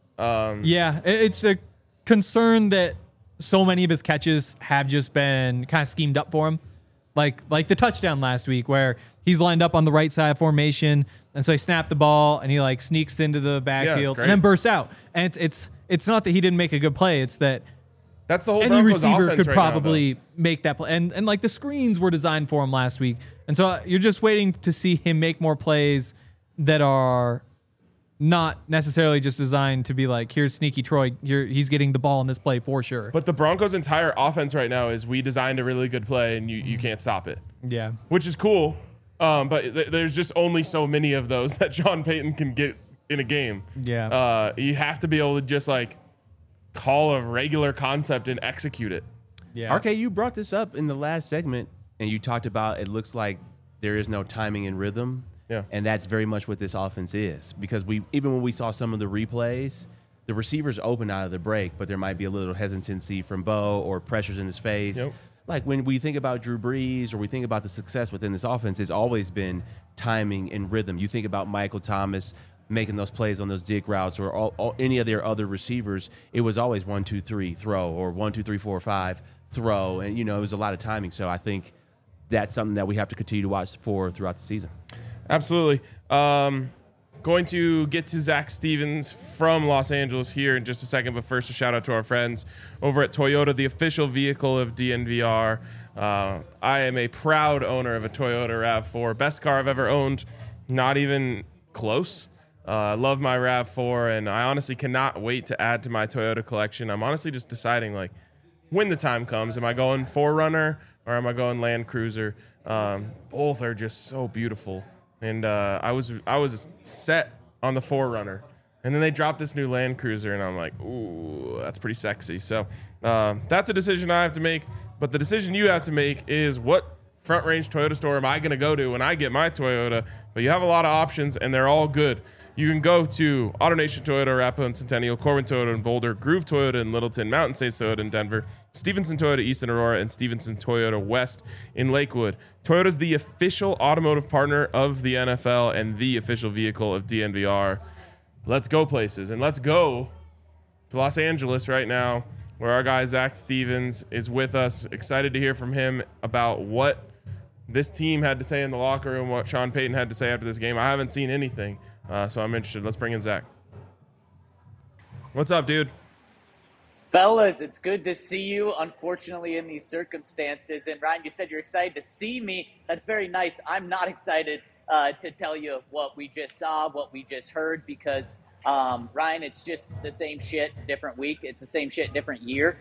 It's a concern that so many of his catches have just been kind of schemed up for him. Like the touchdown last week where he's lined up on the right side of formation, and so he snapped the ball, and he sneaks into the backfield and then bursts out. And it's not that he didn't make a good play. It's that that's the whole any Broncos receiver offense could right probably make that play. And the screens were designed for him last week. And so you're just waiting to see him make more plays that are not necessarily just designed to be here's sneaky Troy. He's getting the ball in this play for sure. But the Broncos' entire offense right now is we designed a really good play and you can't stop it. Yeah. Which is cool. But there's just only so many of those that Sean Payton can get in a game. Yeah. You have to be able to just call a regular concept and execute it. Yeah. RK, you brought this up in the last segment, and you talked about it looks like there is no timing and rhythm. Yeah. And that's very much what this offense is. Because even when we saw some of the replays, the receivers open out of the break, but there might be a little hesitancy from Bo or pressures in his face. Yep. Like when we think about Drew Brees or we think about the success within this offense, it's always been timing and rhythm. You think about Michael Thomas making those plays on those dig routes or any of their other receivers, it was always 1, 2, 3 throw or 1, 2, 3, 4, 5 throw. And, it was a lot of timing. So I think that's something that we have to continue to watch for throughout the season. Absolutely. Going to get to Zach Stevens from Los Angeles here in just a second. But first, a shout out to our friends over at Toyota, the official vehicle of DNVR. I am a proud owner of a Toyota RAV4. Best car I've ever owned. Not even close. I love my RAV4, and I honestly cannot wait to add to my Toyota collection. I'm honestly just deciding, when the time comes, am I going 4Runner or am I going Land Cruiser? Both are just so beautiful, and I was set on the 4Runner. And then they dropped this new Land Cruiser, and I'm like, ooh, that's pretty sexy. So that's a decision I have to make. But the decision you have to make is, what Front Range Toyota store am I going to go to when I get my Toyota? But you have a lot of options, and they're all good. You can go to AutoNation Toyota, Arapahoe and Centennial, Corbin Toyota in Boulder, Groove Toyota in Littleton, Mountain States Toyota in Denver, Stevenson Toyota East in Aurora, and Stevenson Toyota West in Lakewood. Toyota's the official automotive partner of the NFL and the official vehicle of DNVR. Let's go places, and let's go to Los Angeles right now, where our guy Zach Stevens is with us. Excited to hear from him about what this team had to say in the locker room, what Sean Payton had to say after this game. I haven't seen anything, so I'm interested. Let's bring in Zach. What's up, dude? Fellas, it's good to see you, unfortunately, in these circumstances. And Ryan, you said you're excited to see me. That's very nice. I'm not excited to tell you what we just saw, what we just heard, because, Ryan, it's just the same shit, different week. It's the same shit, different year.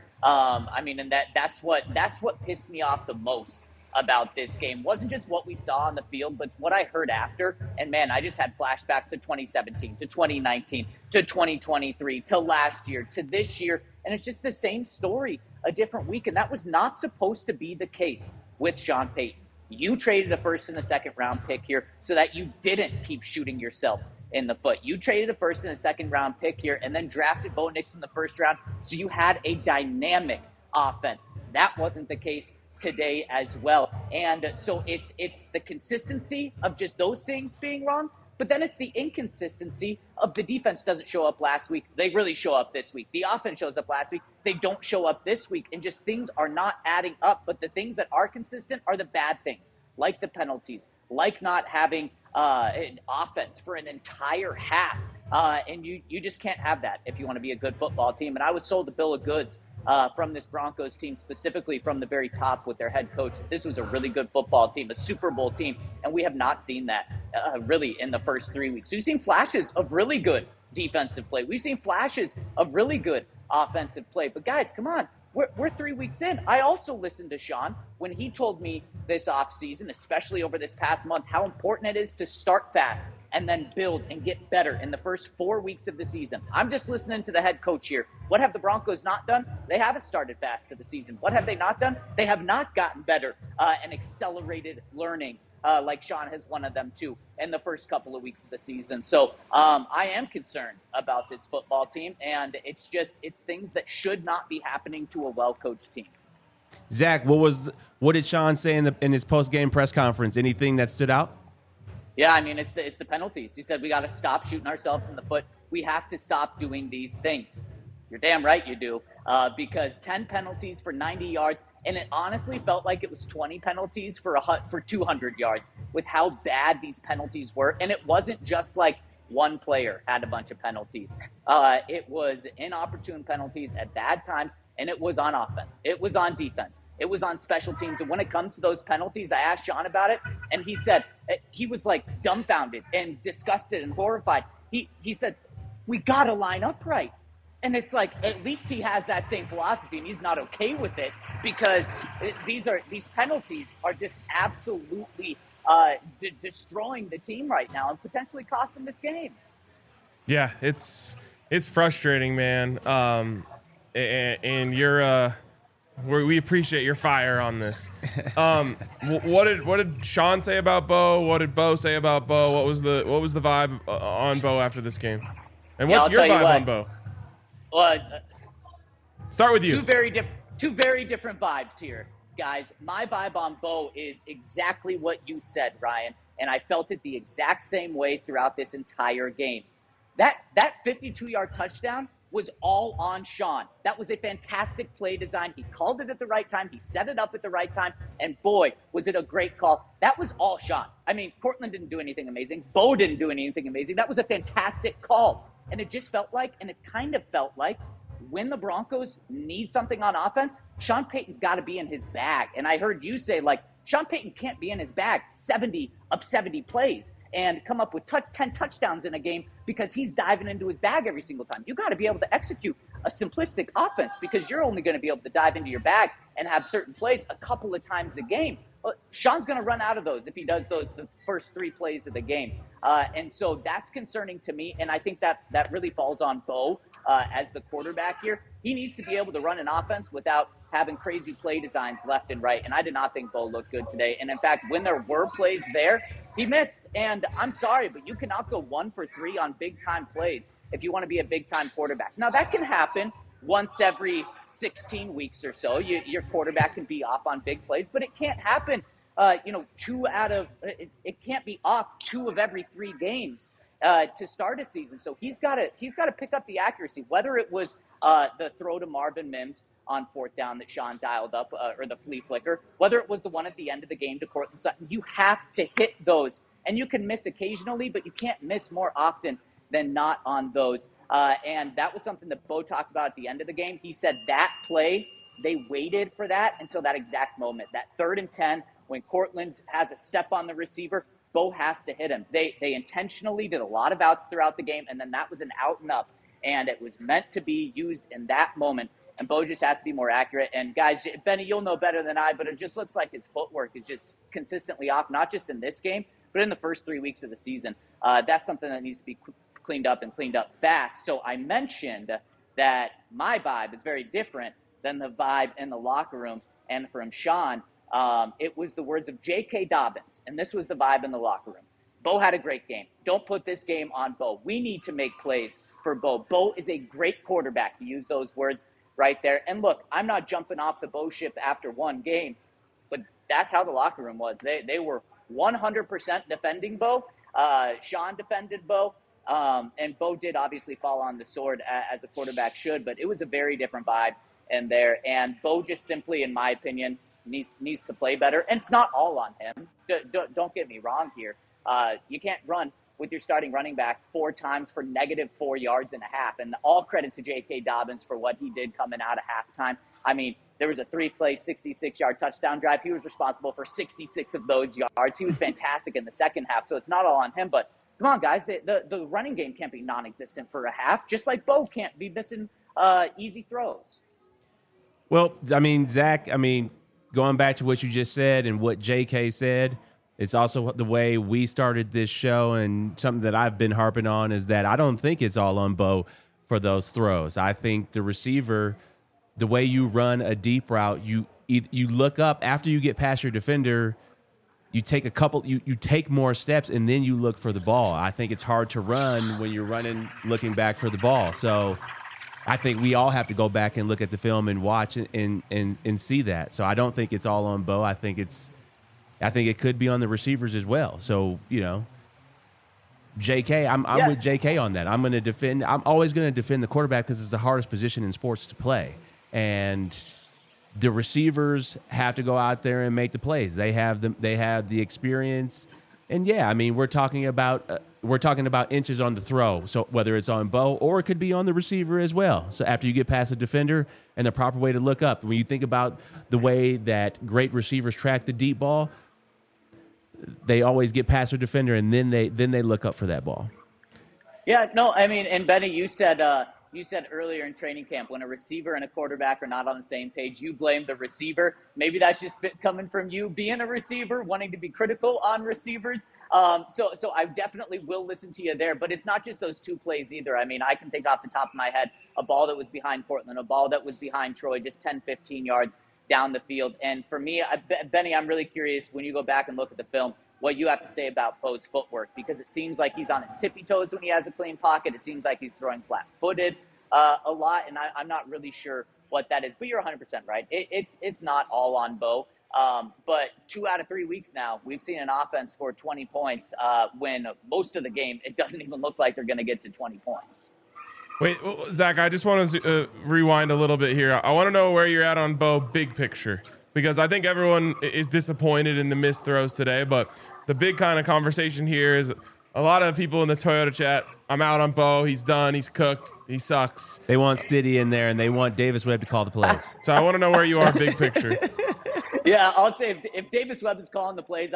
And that's what pissed me off the most about this game. Wasn't just what we saw on the field, but it's what I heard after. And man, I just had flashbacks to 2017, to 2019, to 2023, to last year, to this year. And it's just the same story, a different week. And that was not supposed to be the case with Sean Payton. You traded a first and a second round pick here so that you didn't keep shooting yourself in the foot. You traded a first and a second round pick here and then drafted Bo Nix in the first round. So you had a dynamic offense. That wasn't the case today as well. And so it's the consistency of just those things being wrong, but then it's the inconsistency of the defense doesn't show up last week. They really show up this week. The offense shows up last week. They don't show up this week, and just things are not adding up. But the things that are consistent are the bad things, like the penalties, like not having an offense for an entire half. And you just can't have that if you want to be a good football team. And I was sold the bill of goods from this Broncos team, specifically from the very top with their head coach. This was a really good football team, a Super Bowl team, and we have not seen that really in the first 3 weeks. We've seen flashes of really good defensive play. We've seen flashes of really good offensive play. But guys, come on. We're 3 weeks in. I also listened to Sean when he told me this offseason, especially over this past month, how important it is to start fast and then build and get better in the first 4 weeks of the season. I'm just listening to the head coach here. What have the Broncos not done? They haven't started fast to the season. What have they not done? They have not gotten better and accelerated learning like Sean has one of them too in the first couple of weeks of the season. So I am concerned about this football team, and it's things that should not be happening to a well-coached team. Zach, what did Sean say in his post-game press conference? Anything that stood out? Yeah, I mean, it's the penalties. He said we got to stop shooting ourselves in the foot. We have to stop doing these things. You're damn right you do, because 10 penalties for 90 yards, and it honestly felt like it was 20 penalties for 200 yards with how bad these penalties were. And it wasn't just like one player had a bunch of penalties. It was inopportune penalties at bad times, and it was on offense. It was on defense. It was on special teams. And when it comes to those penalties, I asked Sean about it, and he said he was like dumbfounded and disgusted and horrified. He said, we got to line up right. And it's like, at least he has that same philosophy, and he's not okay with it, because these penalties are just absolutely destroying the team right now and potentially costing this game. Yeah, it's frustrating, man. And you're we appreciate your fire on this. What did Sean say about Bo? What did Bo say about Bo? What was the vibe on Bo after this game? And what's your vibe on Bo? Start with you. Two very different vibes here, guys. My vibe on Bo is exactly what you said, Ryan, and I felt it the exact same way throughout this entire game. That 52-yard touchdown was all on Sean. That was a fantastic play design. He called it at the right time. He set it up at the right time, and boy, was it a great call. That was all Sean. I mean, Cortland didn't do anything amazing. Bo didn't do anything amazing. That was a fantastic call. And it just felt like, and it's kind of felt like, when the Broncos need something on offense, Sean Payton's got to be in his bag. And I heard you say, like, Sean Payton can't be in his bag 70 of 70 plays and come up with 10 touchdowns in a game because he's diving into his bag every single time. You got to be able to execute a simplistic offense because you're only going to be able to dive into your bag and have certain plays a couple of times a game. Sean's going to run out of those if he does the first 3 plays of the game. And so that's concerning to me. And I think that really falls on Bo as the quarterback here. He needs to be able to run an offense without having crazy play designs left and right. And I did not think Bo looked good today. And in fact, when there were plays there, he missed. And I'm sorry, but you cannot go 1 for 3 on big time plays if you want to be a big time quarterback. Now that can happen once every 16 weeks or so. Your quarterback can be off on big plays, but it can't happen. It can't be off 2 of every 3 games to start a season. So he's got to pick up the accuracy, whether it was the throw to Marvin Mims on 4th down that Sean dialed up, or the flea flicker, whether it was the one at the end of the game to Courtland Sutton. You have to hit those, and you can miss occasionally, but you can't miss more often than not on those. And that was something that Bo talked about at the end of the game. He said that play, they waited for that until that exact moment, that 3rd and 10, when Courtland has a step on the receiver, Bo has to hit him. They intentionally did a lot of outs throughout the game, and then that was an out and up, and it was meant to be used in that moment. And Bo just has to be more accurate. And guys, Benny, you'll know better than I, but it just looks like his footwork is just consistently off, not just in this game, but in the first 3 weeks of the season. That's something that needs to be cleaned up and cleaned up fast. So I mentioned that my vibe is very different than the vibe in the locker room. And from Sean, it was the words of J.K. Dobbins, and this was the vibe in the locker room. Bo had a great game. Don't put this game on Bo. We need to make plays for Bo. Bo is a great quarterback. He used those words right there. And look, I'm not jumping off the Bo ship after one game, but that's how the locker room was. They were 100% defending Bo. Sean defended Bo. And Bo did obviously fall on the sword as a quarterback should, but it was a very different vibe in there. And Bo just simply, in my opinion, needs to play better. And it's not all on him. Don't get me wrong here. You can't run with your starting running back 4 times for -4.5 yards. And all credit to J.K. Dobbins for what he did coming out of halftime. I mean, there was a 3-play, 66-yard touchdown drive. He was responsible for 66 of those yards. He was fantastic in the second half, so it's not all on him. But come on, guys, the running game can't be non-existent for a half, just like Bo can't be missing easy throws. Well, I mean, Zach, going back to what you just said and what J.K. said, it's also the way we started this show, and something that I've been harping on is that I don't think it's all on Bo for those throws. I think the receiver, the way you run a deep route, you look up after you get past your defender, you take you take more steps, and then you look for the ball. I think it's hard to run when you're running, looking back for the ball. So I think we all have to go back and look at the film and watch and see that. So I don't think it's all on Bo. I think it could be on the receivers as well. So, JK, I'm with JK on that. I'm always going to defend the quarterback because it's the hardest position in sports to play. And the receivers have to go out there and make the plays. They have the experience. And we're talking about inches on the throw. So whether it's on Bo or it could be on the receiver as well. So after you get past a defender, and the proper way to look up, when you think about the way that great receivers track the deep ball, they always get past their defender, and then they look up for that ball. Yeah, no, and Benny, you said earlier in training camp, when a receiver and a quarterback are not on the same page, you blame the receiver. Maybe that's just coming from you being a receiver, wanting to be critical on receivers. So I definitely will listen to you there, but it's not just those 2 plays either. I can think off the top of my head, a ball that was behind Portland, a ball that was behind Troy, just 10, 15 yards down the field. And for me, Benny, I'm really curious when you go back and look at the film, what you have to say about Bo's footwork, because it seems like he's on his tippy toes when he has a clean pocket. It seems like he's throwing flat-footed a lot, and I'm not really sure what that is. But you're 100% right. It's not all on Bo. But 2 out of 3 weeks now, we've seen an offense score 20 points when most of the game it doesn't even look like they're going to get to 20 points. Wait, Zach, I just want to rewind a little bit here. I want to know where you're at on Bo big picture, because I think everyone is disappointed in the missed throws today. But the big kind of conversation here is a lot of people in the Toyota chat, I'm out on Bo. He's done. He's cooked. He sucks. They want Stiddy in there, and they want Davis Webb to call the plays. So I want to know where you are big picture. Yeah, I'll say if Davis Webb is calling the plays,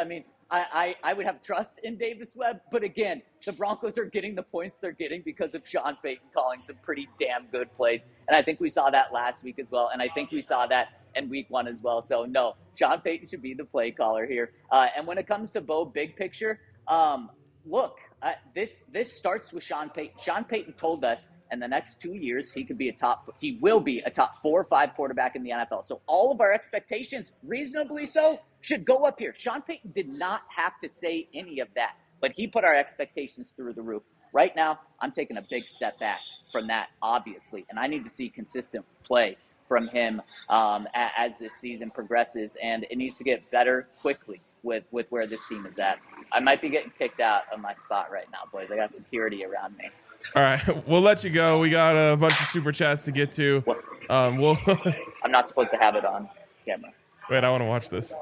I would have trust in Davis Webb. But again, the Broncos are getting the points they're getting because of Sean Payton calling some pretty damn good plays. And I think we saw that last week as well. And I think we saw that in week 1 as well. So, no, Sean Payton should be the play caller here. And when it comes to Bo, big picture, look, this starts with Sean Payton. Sean Payton told us in the next 2 years he will be a top 4 or 5 quarterback in the NFL. So all of our expectations, reasonably so, should go up here. Sean Payton did not have to say any of that, but he put our expectations through the roof. Right now, I'm taking a big step back from that, obviously, and I need to see consistent play from him as this season progresses, and it needs to get better quickly with where this team is at. I might be getting kicked out of my spot right now, boys. I got security around me. All right, we'll let you go. We got a bunch of super chats to get to. We'll I'm not supposed to have it on camera. Wait, I want to watch this.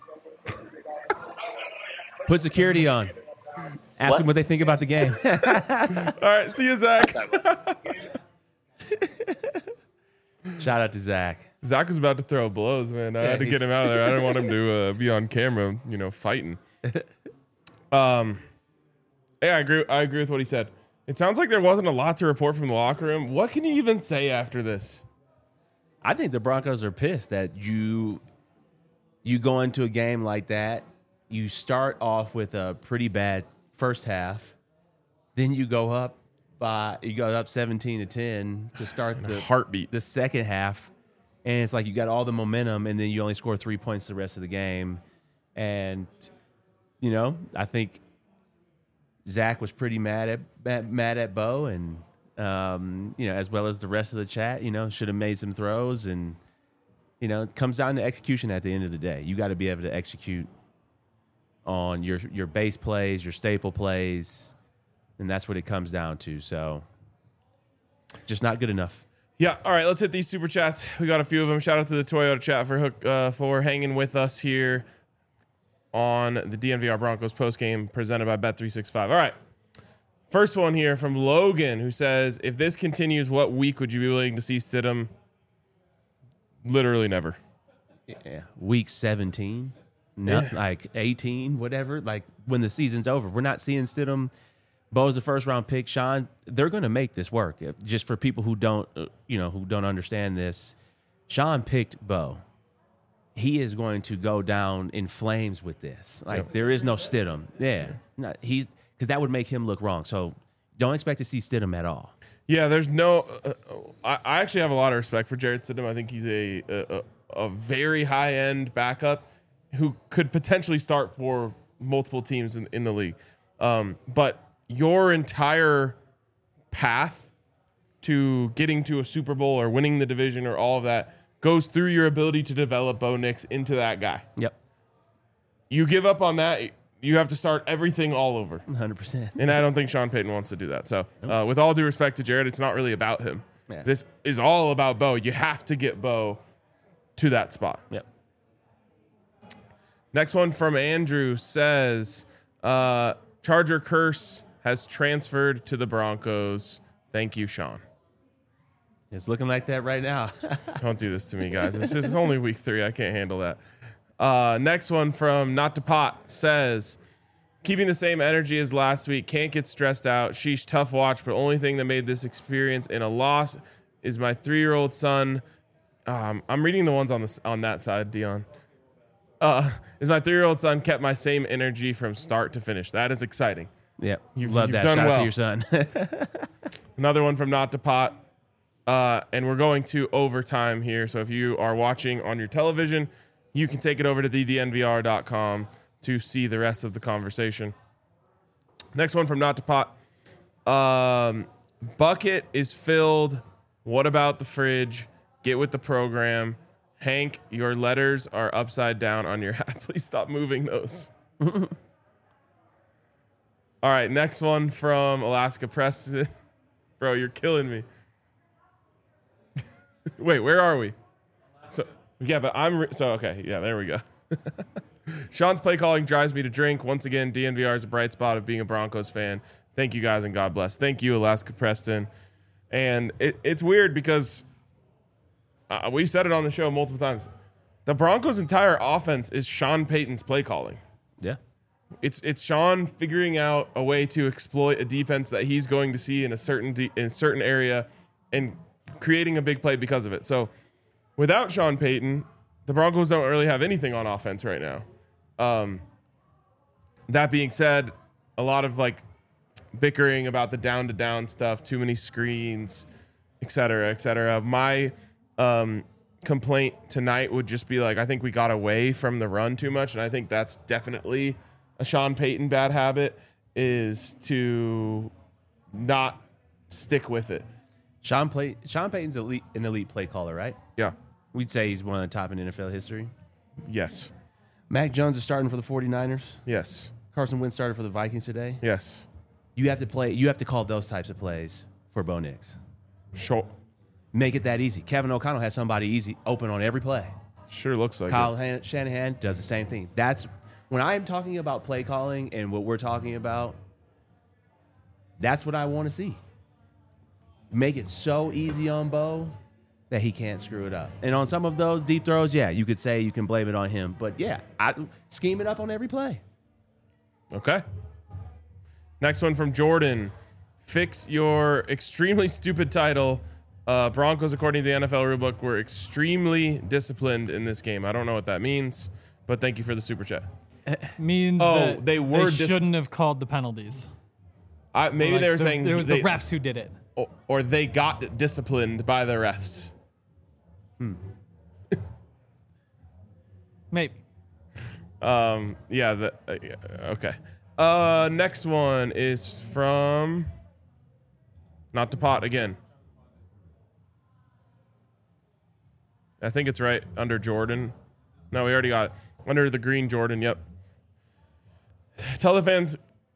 Put security on. Ask them what they think about the game. All right, see you, Zach. Shout out to Zach. Zach was about to throw blows, man. I had to get him out of there. I didn't want him to be on camera, fighting. Yeah, I agree with what he said. It sounds like there wasn't a lot to report from the locker room. What can you even say after this? I think the Broncos are pissed that you go into a game like that. You start off with a pretty bad first half, then you go up 17-10 to start the heartbeat the second half, and it's like you got all the momentum, and then you only score 3 points the rest of the game. And I think Zach was pretty mad at Bo, and as well as the rest of the chat. Should have made some throws, and it comes down to execution at the end of the day. You got to be able to execute on your base plays, your staple plays, and that's what it comes down to. So, just not good enough. Yeah. All right. Let's hit these super chats. We got a few of them. Shout out to the Toyota chat for hanging with us here on the DNVR Broncos postgame presented by Bet365. All right. First one here from Logan, who says, if this continues, what week would you be willing to see Stidham? Literally never. Yeah. Week 17, like 18, whatever. Like when the season's over. We're not seeing Stidham. Bo's the first round pick. Sean, they're going to make this work. Just for people who don't understand this, Sean picked Bo. He is going to go down in flames with this. There is no Stidham. Yeah. Because that would make him look wrong. So don't expect to see Stidham at all. Yeah, there's no I actually have a lot of respect for Jarrett Stidham. I think he's a very high-end backup who could potentially start for multiple teams in the league. But your entire path to getting to a Super Bowl or winning the division or all of that goes through your ability to develop Bo Nix into that guy. Yep. You give up on that, you have to start everything all over. 100%. And I don't think Sean Payton wants to do that. So with all due respect to Jarrett, it's not really about him. Yeah. This is all about Bo. You have to get Bo to that spot. Yep. Next one from Andrew says, Charger curse has transferred to the Broncos. Thank you, Sean. It's looking like that right now. Don't do this to me, guys. It's only week 3. I can't handle that. Next one from Not to Pot says, keeping the same energy as last week. Can't get stressed out. Sheesh, tough watch, but only thing that made this experience in a loss is my 3-year-old son. I'm reading the ones on that side, Dion. Is my 3-year-old son kept my same energy from start to finish. That is exciting. Yep. You've Love that. done Shout out well. to your son. Another one from Not to Pot. And we're going to overtime here. So if you are watching on your television, you can take it over to thednvr.com to see the rest of the conversation. Next one from Not to Pot. Bucket is filled. What about the fridge? Get with the program. Hank, your letters are upside down on your hat. Please stop moving those. All right, next one from Alaska Preston. Bro, you're killing me. Wait, where are we? So yeah, but okay, yeah, there we go. Sean's play calling drives me to drink. Once again, DNVR is a bright spot of being a Broncos fan. Thank you guys and God bless. Thank you, Alaska Preston. And it's weird because we said it on the show multiple times. The Broncos' entire offense is Sean Payton's play calling. Yeah. It's Sean figuring out a way to exploit a defense that he's going to see in a certain area and creating a big play because of it. So without Sean Payton, the Broncos don't really have anything on offense right now. That being said, a lot of like bickering about the down-to-down stuff, too many screens, et cetera, et cetera. My complaint tonight would just be like, I think we got away from the run too much, and I think that's definitely a Sean Payton bad habit, is to not stick with it. Sean Payton's an elite play caller, right? Yeah. We'd say he's one of the top in NFL history. Yes. Mac Jones is starting for the 49ers. Yes. Carson Wentz started for the Vikings today. Yes. You have to call those types of plays for Bo Nix. Sure. Make it that easy. Kevin O'Connell has somebody easy open on every play. Sure looks like Kyle it. Shanahan does the same thing. That's when I'm talking about play calling and what we're talking about. That's what I want to see. Make it so easy on Bo that he can't screw it up. And on some of those deep throws, yeah, you could say you can blame it on him. But yeah, I scheme it up on every play. Okay. Next one from Jordan. Fix your extremely stupid title. Broncos, according to the NFL rulebook, were extremely disciplined in this game. I don't know what that means, but thank you for the super chat. Means that they shouldn't have called the penalties. Maybe they were saying there was the refs who did it. Or they got disciplined by the refs. Maybe. Yeah. Okay. Next one is from Not to Pot again. I think it's right under Jordan. No, we already got it. Under the green Jordan, yep. Tell the fans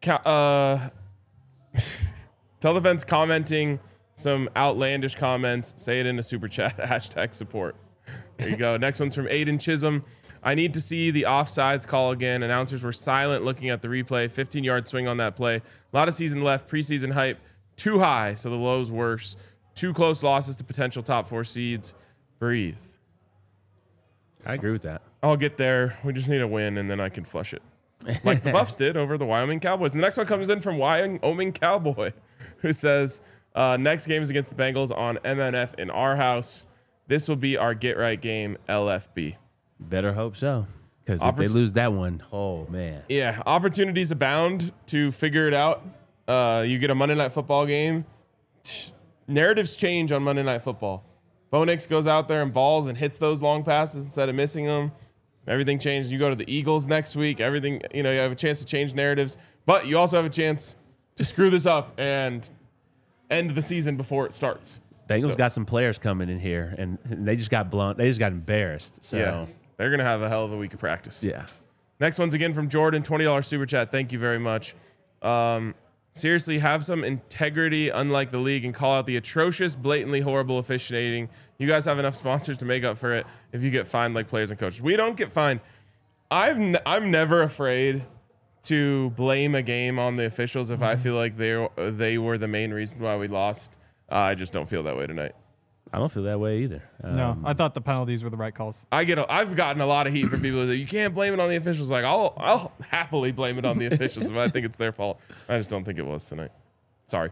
commenting some outlandish comments. Say it in a super chat. # support. There you go. Next one's from Aiden Chisholm. I need to see the offsides call again. Announcers were silent looking at the replay. 15-yard swing on that play. A lot of season left. Preseason hype too high, so the low's worse. 2 close losses to potential top 4 seeds. Breathe. I agree with that. I'll get there. We just need a win, and then I can flush it. Like the Buffs did over the Wyoming Cowboys. And the next one comes in from Wyoming Cowboy, who says, next game is against the Bengals on MNF in our house. This will be our get-right game, LFB. Better hope so. Because if they lose that one, oh, man. Yeah, opportunities abound to figure it out. You get a Monday Night Football game. Narratives change on Monday Night Football. Bo Nix goes out there and balls and hits those long passes instead of missing them. Everything changes. You go to the Eagles next week. Everything, you have a chance to change narratives. But you also have a chance to screw this up and end the season before it starts. Bengals got some players coming in here, and they just got blunt. They just got embarrassed. So yeah, they're going to have a hell of a week of practice. Yeah. Next one's again from Jordan, $20 super chat. Thank you very much. Seriously, have some integrity, unlike the league, and call out the atrocious, blatantly horrible officiating. You guys have enough sponsors to make up for it if you get fined like players and coaches. We don't get fined. I'm never afraid to blame a game on the officials if I feel like they were the main reason why we lost. I just don't feel that way tonight. I don't feel that way either. No, I thought the penalties were the right calls. I've gotten a lot of heat from people that you can't blame it on the officials. Like I'll happily blame it on the officials if I think it's their fault. I just don't think it was tonight. Sorry.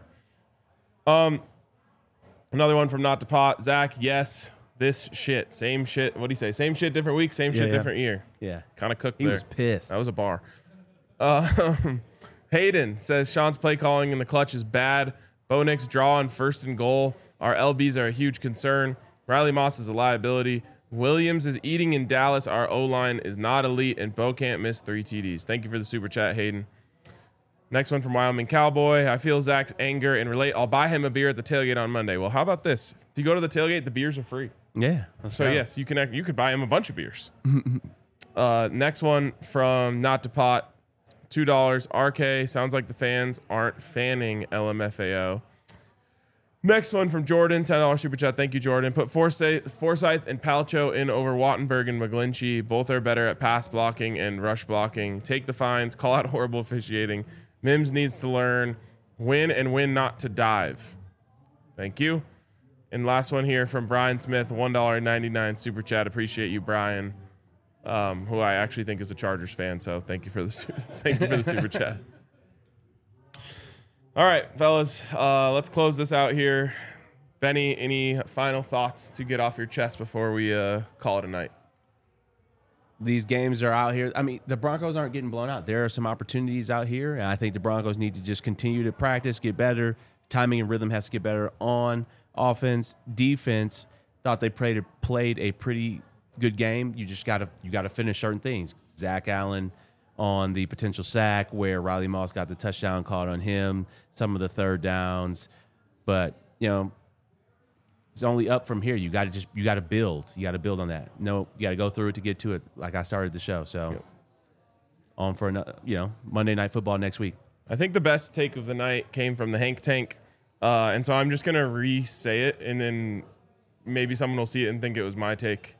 Another one from Not to Pot. Zach, yes, this shit, same shit. What do you say? Same shit, different week. Same shit, different year. Yeah, kind of cooked he there. He was pissed. That was a bar. Hayden says Sean's play calling in the clutch is bad. Bo Nix draw on 1st and goal. Our LBs are a huge concern. Riley Moss is a liability. Williams is eating in Dallas. Our O-line is not elite, and Bo can't miss 3 TDs. Thank you for the super chat, Hayden. Next one from Wyoming Cowboy. I feel Zach's anger and relate. I'll buy him a beer at the tailgate on Monday. Well, how about this? If you go to the tailgate, the beers are free. Yeah. So, yes, you could buy him a bunch of beers. Next one from Not to Pot. $2. RK. Sounds like the fans aren't fanning LMFAO. Next one from Jordan, $10 super chat. Thank you, Jordan. Put Forsyth and Palcho in over Wattenberg and McGlinchey. Both are better at pass blocking and rush blocking. Take the fines. Call out horrible officiating. Mims needs to learn when and when not to dive. Thank you. And last one here from Brian Smith, $1.99 super chat. Appreciate you, Brian. who I actually think is a Chargers fan. So thank you for the super chat. All right, fellas, let's close this out here. Benny, any final thoughts to get off your chest before we call it a night? These games are out here. I mean, the Broncos aren't getting blown out. There are some opportunities out here, and I think the Broncos need to just continue to practice, get better. Timing and rhythm has to get better on offense. Defense, thought they played a pretty good game. You got to finish certain things. Zach Allen on the potential sack where Riley Moss got the touchdown called on him, some of the third downs. But, it's only up from here. You got to build. You got to build on that. No, you got to go through it to get to it. Like I started the show. So on for another, Monday Night Football next week. I think the best take of the night came from the Hank Tank. And so I'm just going to re-say it, and then maybe someone will see it and think it was my take,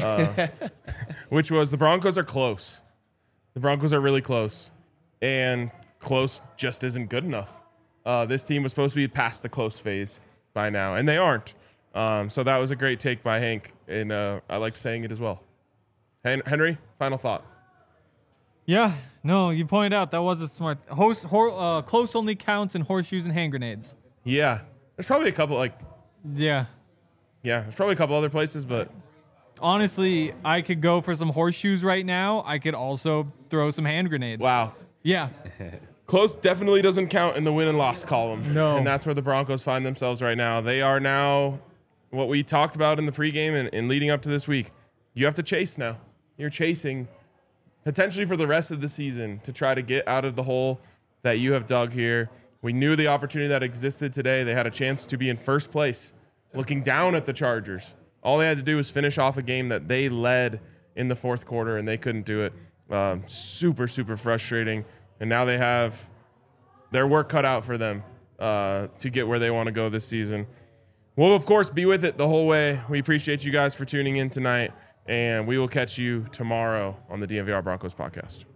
which was the Broncos are close. The Broncos are really close, and close just isn't good enough. This team was supposed to be past the close phase by now, and they aren't. So that was a great take by Hank, and I liked saying it as well. Henry, final thought. Yeah, no, you pointed out that was a smart. Close only counts in horseshoes and hand grenades. Yeah, there's probably a couple Yeah, there's probably a couple other places, but honestly, I could go for some horseshoes right now. I could also throw some hand grenades. wow. Yeah. Close definitely doesn't count in the win and loss column. No. And that's where the Broncos find themselves right now. They are now what we talked about in the pregame and leading up to this week. You have to chase now. You're chasing potentially for the rest of the season to try to get out of the hole that you have dug here. We knew the opportunity that existed today. They had a chance to be in first place, looking down at the Chargers. All they had to do was finish off a game that they led in the fourth quarter, and they couldn't do it. Super, super frustrating. And now they have their work cut out for them to get where they want to go this season. We'll, of course, be with it the whole way. We appreciate you guys for tuning in tonight, and we will catch you tomorrow on the DNVR Broncos podcast.